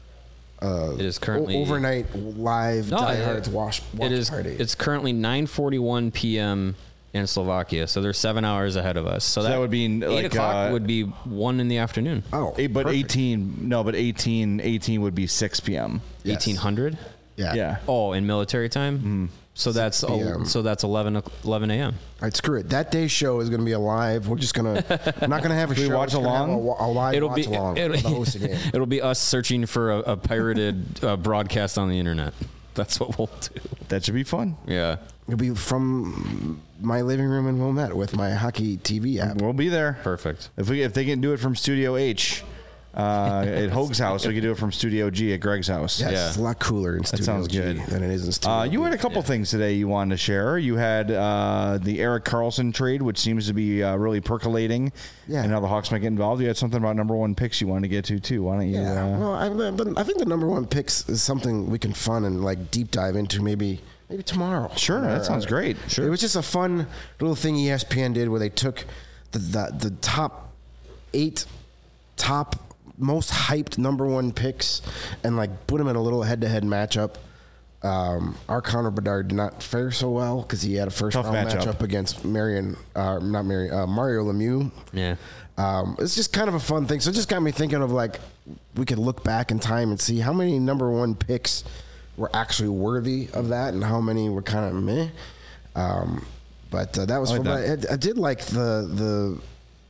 B: It is currently
D: o- overnight live
B: No,
D: Die
B: it-
D: Hard's wash, watch
B: It is.
D: party.
B: It's currently nine forty-one p.m. in Slovakia, so they're seven hours ahead of us. So,
A: that would be,
B: eight
A: like,
B: o'clock
A: uh,
B: would be one in the afternoon.
D: oh,
A: Eight, but
D: perfect.
A: eighteen. No, but eighteen. eighteen would be six p.m.
D: Yes.
B: Eighteen hundred.
D: Yeah.
A: Yeah.
B: Oh, in military time.
A: Mm-hmm.
B: So that's
D: p m.
B: el- so that's eleven o- eleven a.m.
D: All right, screw it. That day's show is going to be a live. We're just gonna not going to have a
A: Can we
D: show.
A: watch
D: It's gonna have
A: along?
D: A, wa- a live
B: It'll
D: watch
B: be
D: along.
B: it'll,
D: with the hosting game.
B: it'll be us searching for a, a pirated uh, broadcast on the internet. That's what we'll do.
A: That should be fun.
B: Yeah.
D: It'll be from my living room in Wilmette with my hockey T V app.
A: We'll be there.
B: Perfect.
A: If we if they can do it from Studio H uh, at Hoag's house, we can do it from Studio G at Greg's house.
D: Yes,
B: Yeah.
D: it's a lot cooler in Studio
A: sounds
D: G
A: good.
D: than it is in Studio
A: Uh, you
D: B.
A: had a couple things today you wanted to share. You had uh, the Eric Carlson trade, which seems to be uh, really percolating.
D: Yeah.
A: And how the Hawks might get involved. You had something about number one picks you wanted to get to too. Why don't you?
D: Yeah,
A: Uh,
D: well, I, I think the number one picks is something we can fun and like deep dive into maybe maybe tomorrow.
A: Sure, that sounds great. Sure.
D: It was just a fun little thing E S P N did where they took the the, the top eight top most hyped number one picks and like put them in a little head to head matchup. Um, our Connor Bedard did not fare so well because he had a first
A: Tough
D: round
A: matchup.
D: matchup against Marion, uh, not Marion, uh, Mario Lemieux.
B: Yeah.
D: Um, it's just kind of a fun thing. So it just got me thinking of like we could look back in time and see how many number one picks were actually worthy of that and how many were kind of meh. Um, but uh, that was
A: I like
D: fun.
A: that.
D: But I, I did like the the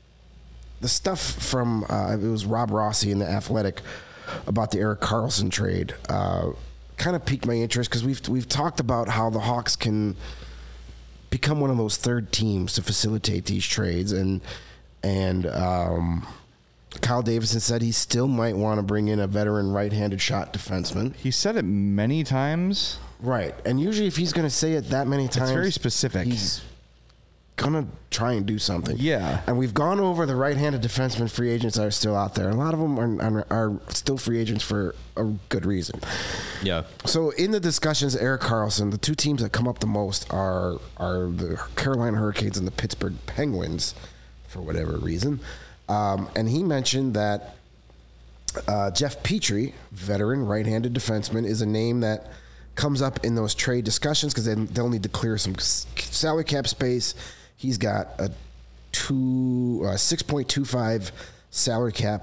D: the stuff from uh, it was Rob Rossi in the Athletic about the Eric Carlson trade. Uh, kind of piqued my interest because we've we've talked about how the Hawks can become one of those third teams to facilitate these trades and. And um, Kyle Davidson said he still might want to bring in a veteran right-handed shot defenseman.
A: he said it many times.
D: Right. And usually if he's going to say it that many times,
A: very specific.
D: He's going to try and do something.
A: Yeah.
D: And we've gone over the right-handed defenseman free agents that are still out there. A lot of them are, are, are still free agents for a good reason.
B: Yeah.
D: So in the discussions, Eric Carlson, the two teams that come up the most are are the Carolina Hurricanes and the Pittsburgh Penguins, for whatever reason. Um, and he mentioned that uh, Jeff Petrie, veteran right-handed defenseman, is a name that comes up in those trade discussions because they, they'll need to clear some s- salary cap space. He's got a two uh, six point two five salary cap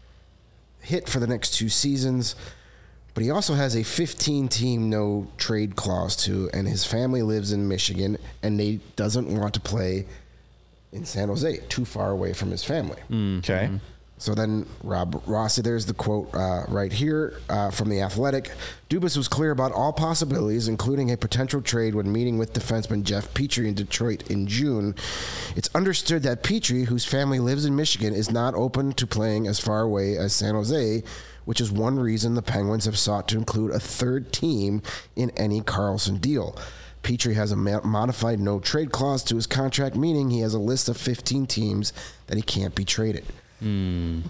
D: hit for the next two seasons. But he also has a fifteen-team no trade clause too, and his family lives in Michigan, and he doesn't want to play in San Jose, too far away from his family.
A: Okay.
B: Mm-hmm.
D: So then Rob Rossi, there's the quote uh, right here uh, from The Athletic. Dubas was clear about all possibilities, including a potential trade when meeting with defenseman Jeff Petrie in Detroit in June. It's understood that Petrie, whose family lives in Michigan, is not open to playing as far away as San Jose, which is one reason the Penguins have sought to include a third team in any Karlsson deal. Petrie has a modified no-trade clause to his contract, meaning he has a list of fifteen teams that he can't be traded. Mm.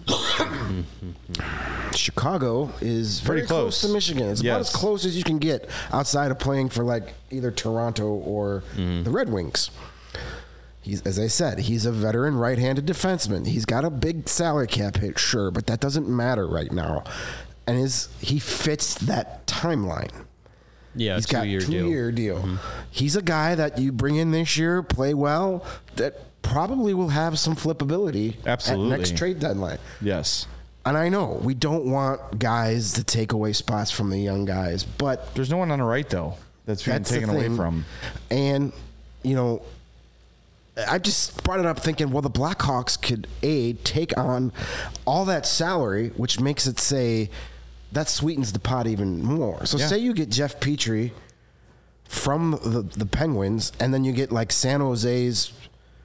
D: Chicago is very
A: Pretty
D: close.
A: close
D: to Michigan. It's
A: yes.
D: about as close as you can get outside of playing for like either Toronto or mm. the Red Wings. He's, as I said, he's a veteran right-handed defenseman. He's got a big salary cap hit, sure, but that doesn't matter right now. And his he fits that timeline.
B: Yeah,
D: he's got a
B: two-year deal.
D: two-year deal.
B: Mm-hmm.
D: He's a guy that you bring in this year, play well, that probably will have some flippability
A: Absolutely.
D: at next trade deadline.
A: Yes.
D: And I know we don't want guys to take away spots from the young guys, but
A: There's no one on the right, though, that's being
D: that's the
A: taken away
D: thing.
A: from.
D: And, you know, I just brought it up thinking, well, the Blackhawks could, A, take on all that salary, which makes it say that sweetens the pot even more. So
A: Yeah.
D: say you get Jeff Petrie from the, the Penguins, and then you get like San Jose's,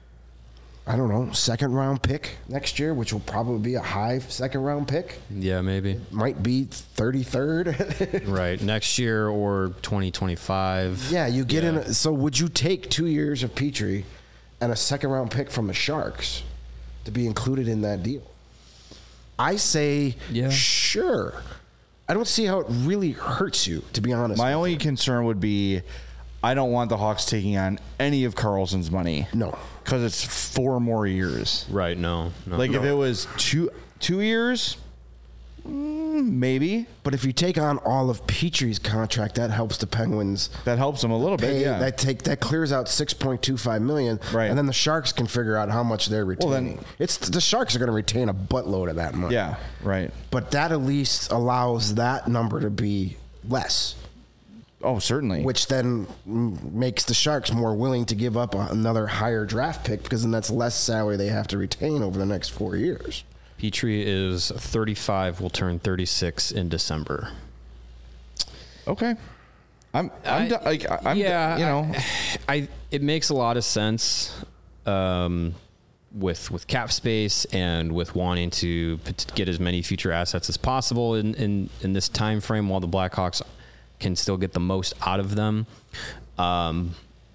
D: I don't know, second round pick next year, which will probably be a high second round pick.
B: Yeah, maybe.
D: Might be thirty-third.
B: Right. Next year or twenty twenty-five.
D: Yeah, you get
B: Yeah.
D: in. A, so would you take two years of Petrie and a second round pick from the Sharks to be included in that deal? I say,
B: Yeah.
D: sure. I don't see how it really hurts you, to be honest.
A: My
D: with
A: only
D: you.
A: concern would be I don't want the Hawks taking on any of Karlsson's money.
D: No.
A: Because it's four more years.
B: Right. No. no.
A: Like,
D: No.
A: if it was two two years, mm, maybe.
D: But if you take on all of Petrie's contract, that helps the Penguins
A: That helps them a little
D: pay.
A: bit, yeah.
D: That take that clears out six point two five million,
A: Right.
D: and then the Sharks can figure out how much they're retaining.
A: then-
D: it's the Sharks are going to retain a buttload of that money.
A: yeah, right.
D: But that at least allows that number to be less,
A: Oh, certainly.
D: which then mm, makes the Sharks more willing to give up a, another higher draft pick, because then that's less salary they have to retain over the next four years.
B: Petrie is thirty-five. Will turn thirty-six in December.
A: Okay. I'm, I'm,
B: I-
A: do- like, I'm,
B: yeah,
A: you know,
B: I, I it makes a lot of sense um, with with cap space and with wanting to p- to get as many future assets as possible in, in, in this time frame while the Blackhawks can still get the most out of them. Um,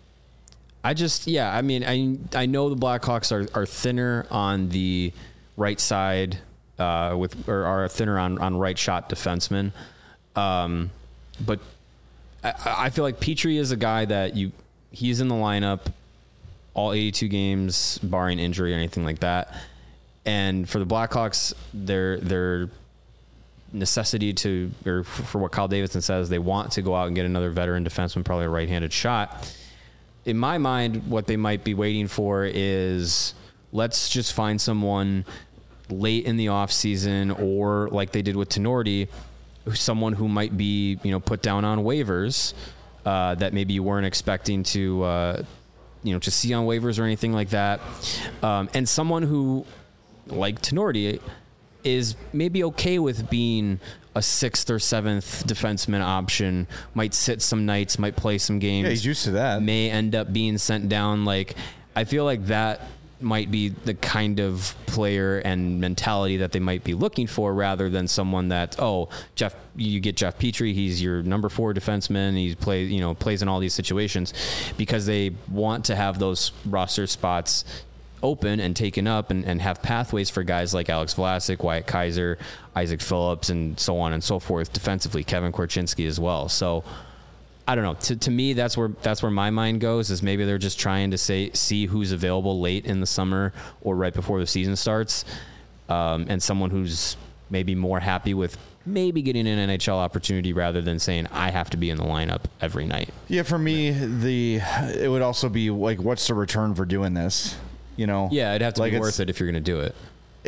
B: I just, yeah, I mean, I I know the Blackhawks are, are thinner on the right side uh, with or are thinner on, on right shot defensemen, um, but I, I feel like Petrie is a guy that you he's in the lineup all eighty-two games, barring injury or anything like that. And for the Blackhawks, their their necessity to, or for what Kyle Davidson says, they want to go out and get another veteran defenseman, probably a right-handed shot. In my mind, what they might be waiting for is let's just find someone late in the offseason, or like they did with Tenorti, someone who might be, you know, put down on waivers uh, that maybe you weren't expecting to, uh, you know, to see on waivers or anything like that. Um, and someone who, like Tenorti, is maybe okay with being a sixth or seventh defenseman option, might sit some nights, might play some games.
A: yeah, he's used to that.
B: May end up being sent down. Like, I feel like that might be the kind of player and mentality that they might be looking for, rather than someone that, oh, Jeff, you get Jeff Petrie, he's your number four defenseman, he plays, you know, plays in all these situations, because they want to have those roster spots open and taken up and, and have pathways for guys like Alex Vlasic, Wyatt Kaiser, Isaac Phillips, and so on and so forth defensively, Kevin Korchinski as well. So I don't know. To to me, that's where that's where my mind goes, is maybe they're just trying to say see who's available late in the summer or right before the season starts, um, and someone who's maybe more happy with maybe getting an N H L opportunity rather than saying I have to be in the lineup every night.
A: Yeah, for me, the it would also be like, what's the return for doing this? You know?
B: Yeah, it'd have to
A: like
B: be
A: it's-
B: worth it if you're going to do it.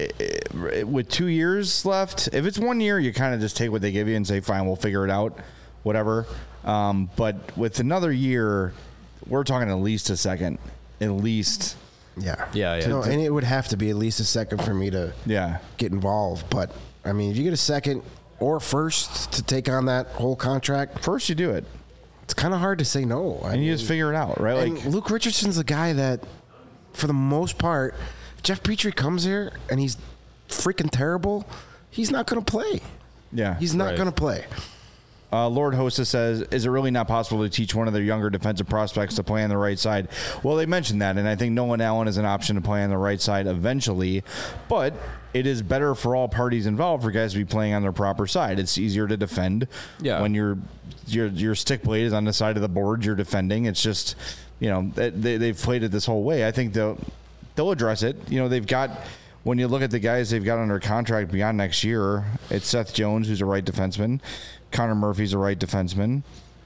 A: With two years left, if it's one year, you kind of just take what they give you and say, fine, we'll figure it out, whatever. Um, but with another year, we're talking at least a second, at least.
D: Yeah.
B: Yeah, yeah.
D: No, and it would have to be at least a second for me to
A: Yeah.
D: get involved. But, I mean, if you get a second or first to take on that whole contract,
A: First, you do it,
D: it's kind of hard to say no. I
A: and you
D: mean,
A: just figure it out, right?
D: and
A: Like,
D: Luke Richardson's a guy that, for the most part, if Jeff Petrie comes here and he's freaking terrible, he's not going to play.
A: yeah.
D: He's not
B: Right.
D: going to play.
A: Uh, Lord Hostess says, is it really not possible to teach one of their younger defensive prospects to play on the right side? Well, they mentioned that, and I think Nolan Allen is an option to play on the right side eventually, but it is better for all parties involved for guys to be playing on their proper side. It's easier to defend
B: Yeah.
A: when your your your stick blade is on the side of the board you're defending. It's just, you know, they, they've played it this whole way. I think they'll, they'll address it. You know, they've got... When you look at the guys they've got under contract beyond next year, it's Seth Jones, who's a right defenseman. Connor Murphy's a right defenseman.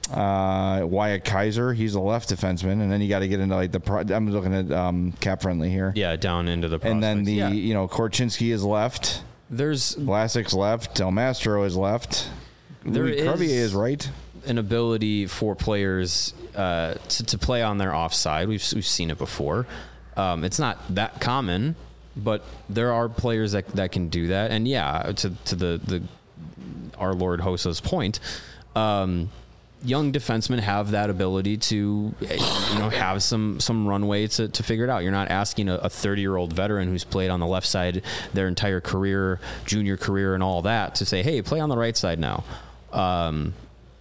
A: Uh, Wyatt Kaiser, he's a left defenseman. And then you got to get into like the. Pro- I'm looking at um, Cap Friendly here.
B: Yeah, down into the
A: And then the
B: prospects. Yeah.
A: you know Korchinski is left.
B: There's
A: Vlasic's left. Del Mastro is left.
B: There
A: Louis Crevier
B: is-
A: is right.
B: an ability for players uh, to, to play on their offside. We've we've seen it before. Um, it's not that common, but there are players that that can do that. And yeah, to to the the our Lord Hosa's point, um, young defensemen have that ability to, you know, have some some runway to, to figure it out. You're not asking a thirty year old veteran who's played on the left side their entire career, junior career, and all that to say, hey, play on the right side now. Um,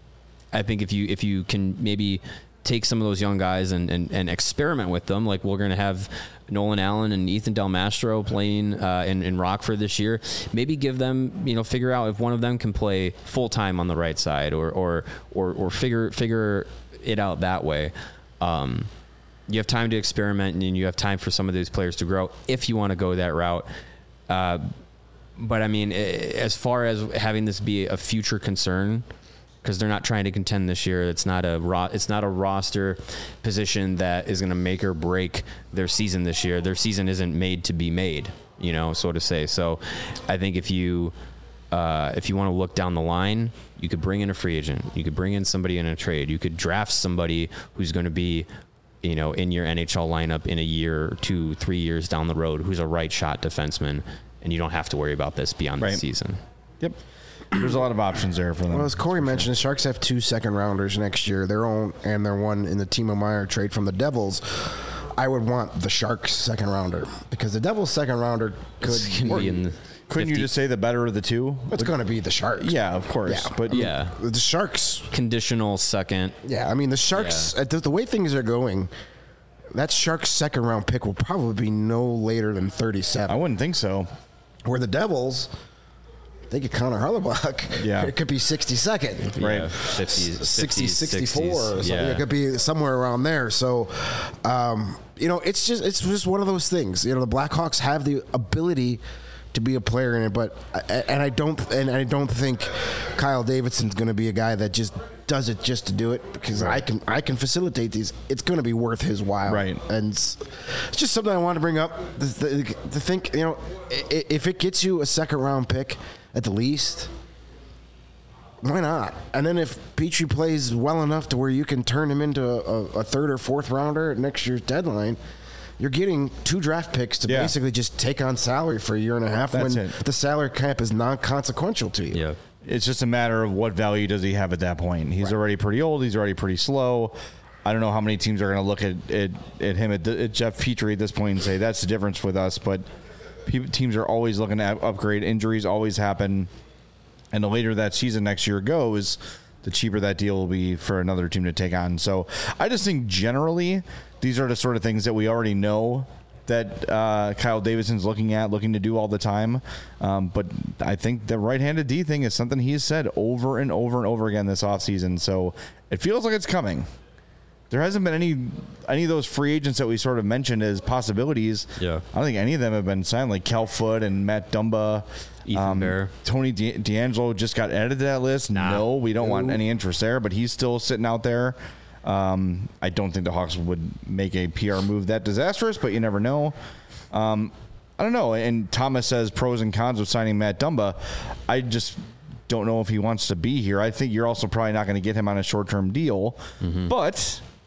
B: I think if you if you can maybe take some of those young guys and, and, and experiment with them, like we're going to have Nolan Allen and Ethan Del Mastro playing uh, in, in Rockford this year, maybe give them, you know, figure out if one of them can play full time on the right side or or or, or figure figure it out that way. Um, you have time to experiment and you have time for some of these players to grow if you want to go that route. Uh, but I mean, as far as having this be a future concern, because they're not trying to contend this year. It's not a ro- it's not a roster position that is going to make or break their season this year. Their season isn't made to be made, you know, so to say. So I think if you uh, if you want to look down the line, you could bring in a free agent. You could bring in somebody in a trade. You could draft somebody who's going to be, you know, in your N H L lineup in a year, two, three years down the road, who's a right shot defenseman, and you don't have to worry about this beyond
A: Right.
B: the season.
A: Yep. There's a lot of options there for them.
D: Well, as Corey mentioned, the Sharks have two second rounders next year, their own and their one in the Timo Meier trade from the Devils. I would want the Sharks second rounder because the Devils second rounder could.
B: It's gonna be in the
A: Couldn't you
B: fifty
A: just say the better of the two?
D: It's going to be the Sharks.
A: Yeah, of course.
D: Yeah.
A: But
B: Yeah.
D: The Sharks.
B: conditional second.
D: Yeah, I mean the Sharks.
B: Yeah.
D: At the, the way things are going, that Sharks second round pick will probably be no later than
A: I
D: thirty-seven.
A: wouldn't think so.
D: Where the Devils, they get Connor Harlebuck.
A: Yeah.
D: It could be sixty-second.
A: Right.
B: Yeah, fifties,
D: sixty,
B: fifties,
D: sixty-four or something.
B: Yeah.
D: It could be somewhere around there. So, um, you know, it's just it's just one of those things. You know, the Blackhawks have the ability to be a player in it, but and I don't and I don't think Kyle Davidson's going to be a guy that just does it just to do it because I can I can facilitate these. It's going to be worth his while,
A: Right.
D: And it's, it's just something I want to bring up to, to, to think. You know, i- if it gets you a second round pick at the least. Why not? And then if Petrie plays well enough to where you can turn him into a, a third or fourth rounder at next year's deadline, you're getting two draft picks to
A: Yeah.
D: basically just take on salary for a year and a half
A: That's
D: when
A: it.
D: the salary cap is non-consequential to you.
B: Yeah.
A: It's just a matter of what value does he have at that point. He's already pretty old. He's already pretty slow. I don't know how many teams are going to look at, at, at him at, at Jeff Petrie at this point and say that's the difference with us. But pe- teams are always looking to upgrade. Injuries always happen. And the later that season next year goes, the cheaper that deal will be for another team to take on. So I just think generally these are the sort of things that we already know that uh, Kyle Davidson's looking at, looking to do all the time. Um, but I think the right-handed D thing is something he's said over and over and over again this offseason. So it feels like it's coming. There hasn't been any any of those free agents that we sort of mentioned as possibilities.
B: Yeah.
A: I don't think any of them have been signed, like Cal Foote and Matt Dumba.
B: Ethan Bear.
A: Tony De- D'Angelo just got added to that list.
B: Nah.
A: No, we don't want
D: No.
A: any interest there, but he's still sitting out there. Um, I don't think the Hawks would make a P R move that disastrous, but you never know. Um, I don't know. And Thomas says pros and cons of signing Matt Dumba. I just don't know if he wants to be here. I think you're also probably not going to get him on a short-term deal.
B: Mm-hmm.
A: But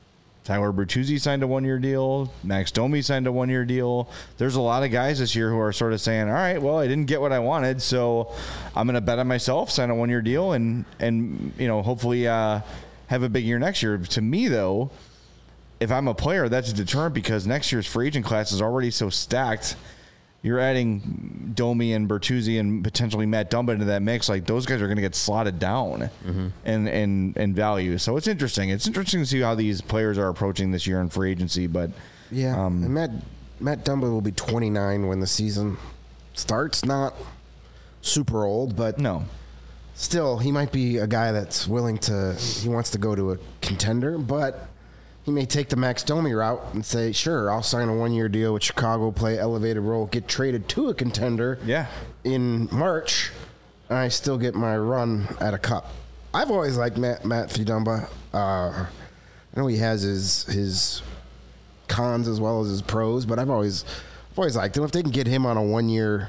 A: Tyler Bertuzzi signed a one-year deal. Max Domi signed a one-year deal. There's a lot of guys this year who are sort of saying, all right, well, I didn't get what I wanted, so I'm going to bet on myself, sign a one-year deal, and, and you know, hopefully uh, have a big year next year. To me, though, if I'm a player, that's a deterrent because next year's free agent class is already so stacked. You're adding Domi and Bertuzzi and potentially Matt Dumba into that mix. Like, those guys are going to get slotted down mm-hmm. in, in, in value. So it's interesting. It's interesting to see how these players are approaching this year in free agency. But
D: yeah,
A: um,
D: and Matt, Matt Dumba will be twenty-nine when the season starts. Not super old, but
A: no.
D: Still, he might be a guy that's willing to, he wants to go to a contender, but he may take the Max Domi route and say, sure, I'll sign a one-year deal with Chicago, play elevated role, get traded to a contender
A: yeah.
D: in March, and I still get my run at a cup. I've always liked Matt, Matthew Dumba. Uh, I know he has his his cons as well as his pros, but I've always, I've always liked him. If they can get him on a one-year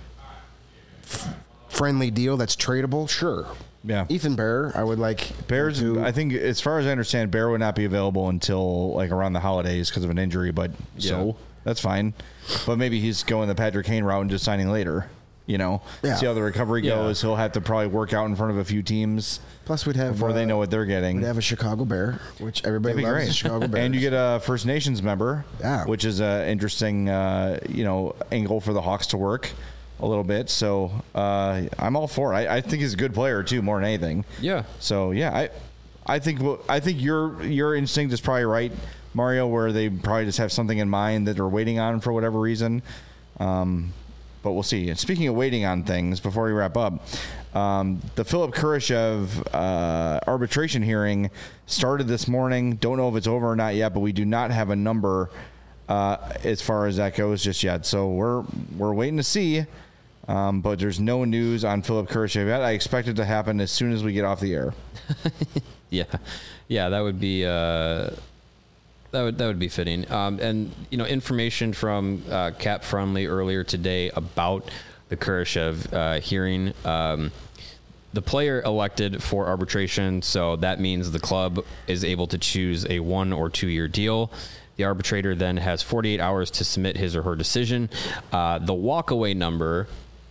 D: f- friendly deal that's tradable, sure.
A: Yeah.
D: Ethan Bear, I would like.
A: Bears,
D: to,
A: I think, as far as I understand, Bear would not be available until like around the holidays because of an injury, but
B: Yeah.
A: so that's fine. But maybe he's going the Patrick Kane route and just signing later, you know?
D: Yeah.
A: See how the recovery
B: Yeah.
A: goes. He'll have to probably work out in front of a few teams
D: Plus, we'd have
A: before they
D: uh,
A: know what they're getting.
D: We'd have a Chicago Bear, which everybody
A: That'd be
D: loves.
A: great.
D: The Chicago Bears.
A: And you get a First Nations member,
D: Yeah.
A: which is an interesting, uh, you know, angle for the Hawks to work a little bit. So uh, I'm all for it. I, I think he's a good player too, more than anything.
B: Yeah.
A: So yeah, I, I think I think your your instinct is probably right, Mario. Where they probably just have something in mind that they're waiting on for whatever reason. Um, but we'll see. And speaking of waiting on things, before we wrap up, um, the Philip Kurashev uh, arbitration hearing started this morning. Don't know if it's over or not yet, but we do not have a number uh, as far as that goes just yet. So we're we're waiting to see. Um, but there's no news on Philip Kurashev yet. I expect it to happen as soon as we get off the air.
B: Yeah, yeah, that would be uh, that would that would be fitting. Um, and you know, information from uh, Cap Friendly earlier today about the Kurashev uh, hearing. Um, the player elected for arbitration, so that means the club is able to choose a one or two year deal. The arbitrator then has forty-eight hours to submit his or her decision. Uh, the walkaway number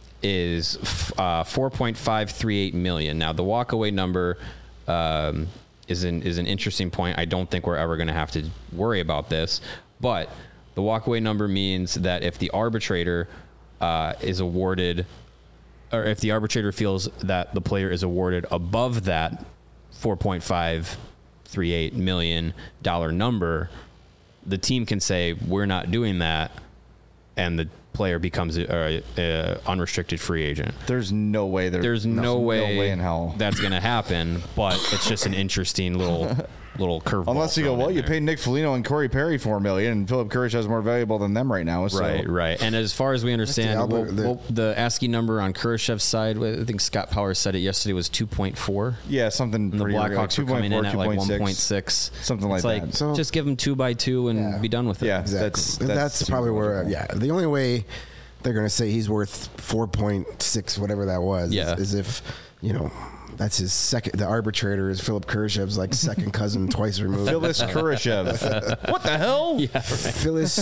B: is uh, four point five three eight million. Now, the walkaway number um, is an is an interesting point. I don't think we're ever going to have to worry about this, but the walkaway number means that if the arbitrator uh, is awarded, or if the arbitrator feels that the player is awarded above that four point five three eight million dollar number, the team can say we're not doing that, and the player becomes a, a, a unrestricted free agent.
A: There's no way there,
B: There's no, way,
A: no way in hell
B: that's going to happen, but it's just an interesting little little curveball.
A: Unless you go, well, you
B: there.
A: paid Nick Foligno and Corey Perry four million, and Philip Kurashev is more valuable than them right now. So.
B: Right, right. And as far as we understand,
D: Albert-
B: well,
D: the-
B: well, the ASCII number on Kurashev's side, I think Scott Powers said it yesterday, was two point four.
A: Yeah, something
B: And the
A: pretty like
B: Blackhawks were coming in at like one point
A: six.
B: six.
A: Something like
B: it's like
A: that.
D: So-
B: just give them two by two and
D: Yeah.
B: be done with it.
A: Yeah.
D: Exactly.
A: That's-
D: That's,
A: that's
D: probably where,
A: logical.
D: yeah. The only way they're going to say he's worth four point six, whatever that was,
B: Yeah.
D: is, is if, you know, that's his second, the arbitrator is Philip Kurashev's like second cousin twice removed.
A: Phyllis Kurashev. What the hell?
B: Yeah.
D: Phyllis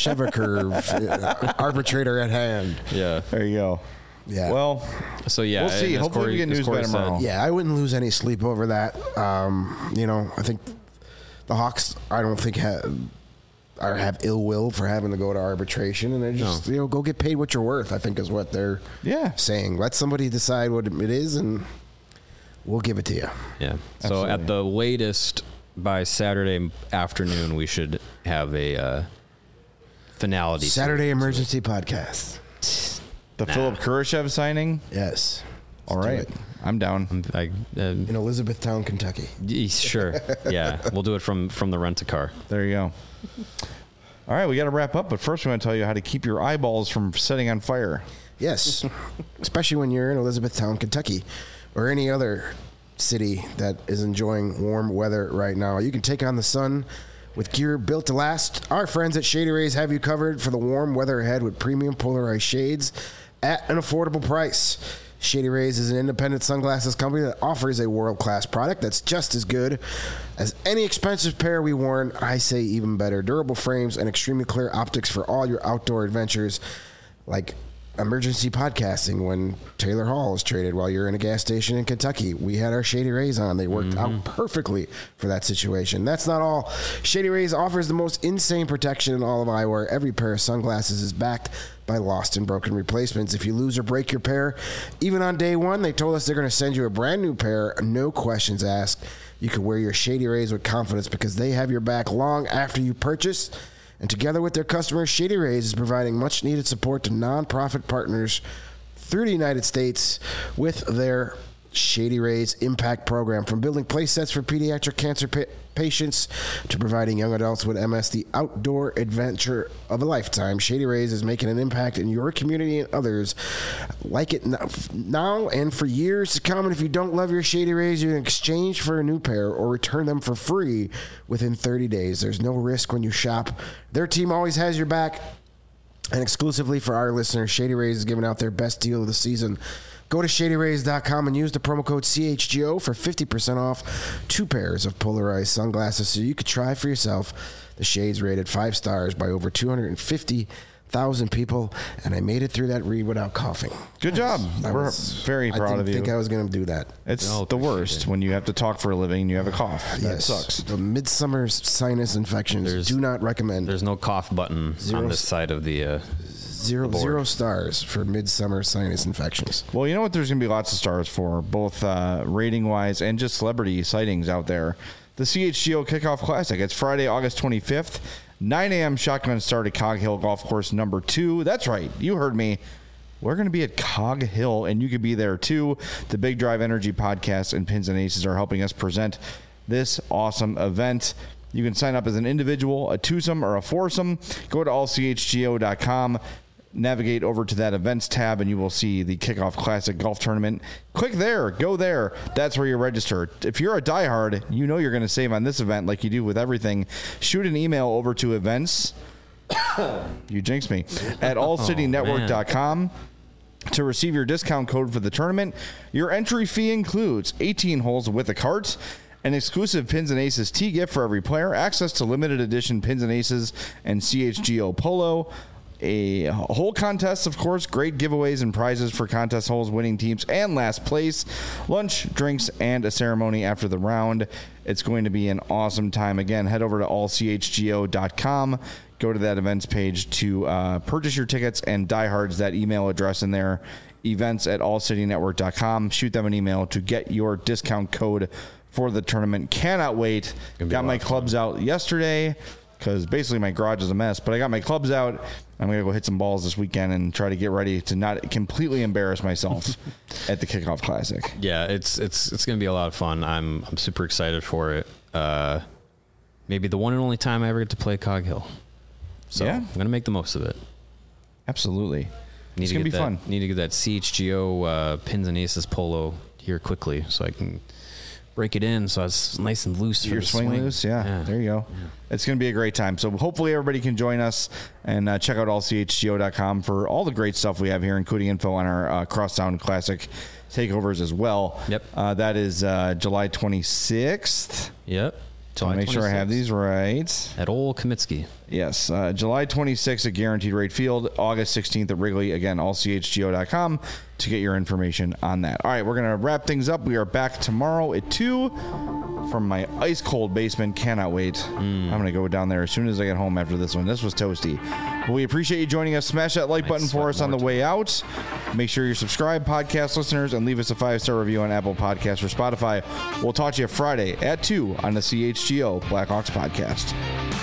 D: Shevaker, arbitrator at hand.
B: Yeah.
A: There you go.
D: Yeah.
A: Well,
B: So yeah,
A: We'll see.
B: and as
A: Hopefully we
B: Corey-
A: get
B: as
A: news
B: Corey
A: by
B: said,
A: tomorrow.
D: Yeah, I wouldn't lose any sleep over that. Um, you know, I think the Hawks, I don't think have, are have ill will for having to go to arbitration, and they just
B: No.
D: you know go get paid what you're worth. I think is what they're
A: yeah.
D: saying. Let somebody decide what it is, and we'll give it to you.
B: Yeah. So
A: Absolutely.
B: at the latest by Saturday afternoon, we should have a uh, finality.
D: Saturday emergency podcast.
A: The
B: Nah.
A: Philip Kurashev signing.
D: Yes.
A: All
D: Let's do
A: right.
D: it.
A: I'm down.
B: I, uh,
D: In Elizabethtown, Kentucky.
B: y- sure. Yeah, we'll do it from from the rent a car.
A: There you go. All right, we got to wrap up, but first we want to tell you how to keep your eyeballs from setting on fire.
D: Yes, especially when you're in Elizabethtown, Kentucky, or any other city that is enjoying warm weather right now. You can take on the sun with gear built to last. Our friends at Shady Rays have you covered for the warm weather ahead with premium polarized shades at an affordable price. Shady Rays is an independent sunglasses company that offers a world-class product that's just as good as any expensive pair we worn. I say even better. Durable frames and extremely clear optics for all your outdoor adventures, like emergency podcasting when Taylor Hall is traded while you're in a gas station in Kentucky. We had our Shady Rays on. They worked mm-hmm. out perfectly for that situation. That's not all. Shady Rays offers the most insane protection in all of eyewear. Every pair of sunglasses is backed by lost and broken replacements. If you lose or break your pair, even on day one, they told us they're going to send you a brand new pair, no questions asked. You can wear your Shady Rays with confidence because they have your back long after you purchase. And together with their customers, Shady Rays is providing much-needed support to nonprofit partners through the United States with their Shady Rays Impact Program. From building play sets for pediatric cancer pa- patients to providing young adults with M S the outdoor adventure of a lifetime, Shady Rays is making an impact in your community and others like it now and for years to come. And if you don't love your Shady Rays, you can exchange for a new pair or return them for free within thirty days. There's no risk when you shop. Their team always has your back. And exclusively for our listeners, Shady Rays is giving out their best deal of the season. Go to shady rays dot com and use the promo code C H G O for fifty percent off two pairs of polarized sunglasses so you could try for yourself. The shades rated five stars by over two hundred fifty thousand people, and I made it through that read without coughing.
A: Good job.
D: I
A: We're
D: was,
A: very proud
D: I didn't
A: of you.
D: think I was going to do that.
A: It's
B: No,
A: the worst
B: it.
A: when you have to talk for a living and you have a cough. That
D: Yes.
A: sucks.
D: The midsummer sinus infections.
B: There's-
D: do not recommend.
B: There's no cough button
D: Zero
B: on this side of the. Uh,
D: Zero,
B: board.
D: zero stars for midsummer sinus infections.
A: Well, you know what? There's going to be lots of stars for, both uh, rating-wise and just celebrity sightings out there. The C H G O Kickoff Classic. It's Friday, August twenty-fifth, nine a.m. shotgun start at Cog Hill Golf Course number two. That's right. You heard me. We're going to be at Cog Hill, and you could be there too. The Big Drive Energy Podcast and Pins and Aces are helping us present this awesome event. You can sign up as an individual, a twosome, or a foursome. Go to all c h g o dot com. Navigate over to that events tab and you will see the Kickoff Classic Golf Tournament. Click there, go there. That's where you register. If you're a diehard, you know you're going to save on this event like you do with everything. Shoot an email over to events. You jinxed me. At all city network dot com to receive your discount code for the tournament. Your entry fee includes eighteen holes with a cart, an exclusive Pins and Aces tee gift for every player, access to limited edition Pins and Aces and C H G O Polo, a whole contest, of course, great giveaways and prizes for contest holes, winning teams, and last place, lunch, drinks, and a ceremony after the round. It's going to be an awesome time. Again, head over to all c h g o dot com. Go to that events page to uh, purchase your tickets, and diehards, that email address in there, events at all city network dot com. Shoot them an email to get your discount code for the tournament. Cannot wait. Got my clubs out yesterday because basically my garage is a mess, but I got my clubs out. I'm going to go hit some balls this weekend and try to get ready to not completely embarrass myself at the Kickoff Classic.
B: yeah, it's it's it's going to be a lot of fun. I'm I'm super excited for it. Uh, maybe the one and only time I ever get to play Cog Hill. So
A: Yeah.
B: I'm going to make the most of it.
A: Absolutely.
B: Need
A: It's
B: to
A: going to
B: get
A: be
B: that,
A: fun.
B: Need to get that C H G O uh, Pins and Aces polo here quickly so I can break it in so it's nice and loose for
A: Your
B: the
A: swing,
B: swing.
A: loose, yeah,
B: Yeah.
A: there you go. It's going to be a great time. So hopefully everybody can join us and uh, check out all c h g o dot com for all the great stuff we have here, including info on our uh, Crosstown Classic takeovers as well.
B: Yep.
A: Uh, that is uh, July twenty-sixth.
B: Yep.
A: So make sure I have these right.
B: At Old Kamitsky.
A: Yes, uh, July twenty-sixth at Guaranteed Rate Field, August sixteenth at Wrigley. Again, all c h g o dot com to get your information on that. All right, we're going to wrap things up. We are back tomorrow at two from my ice-cold basement. Cannot wait. Mm. I'm going to go down there as soon as I get home after this one. This was toasty. But we appreciate you joining us. Smash that like button for us on the way out. Make sure you're subscribed, podcast listeners, and leave us a five-star review on Apple Podcasts or Spotify. We'll talk to you Friday at two on the C H G O Blackhawks podcast.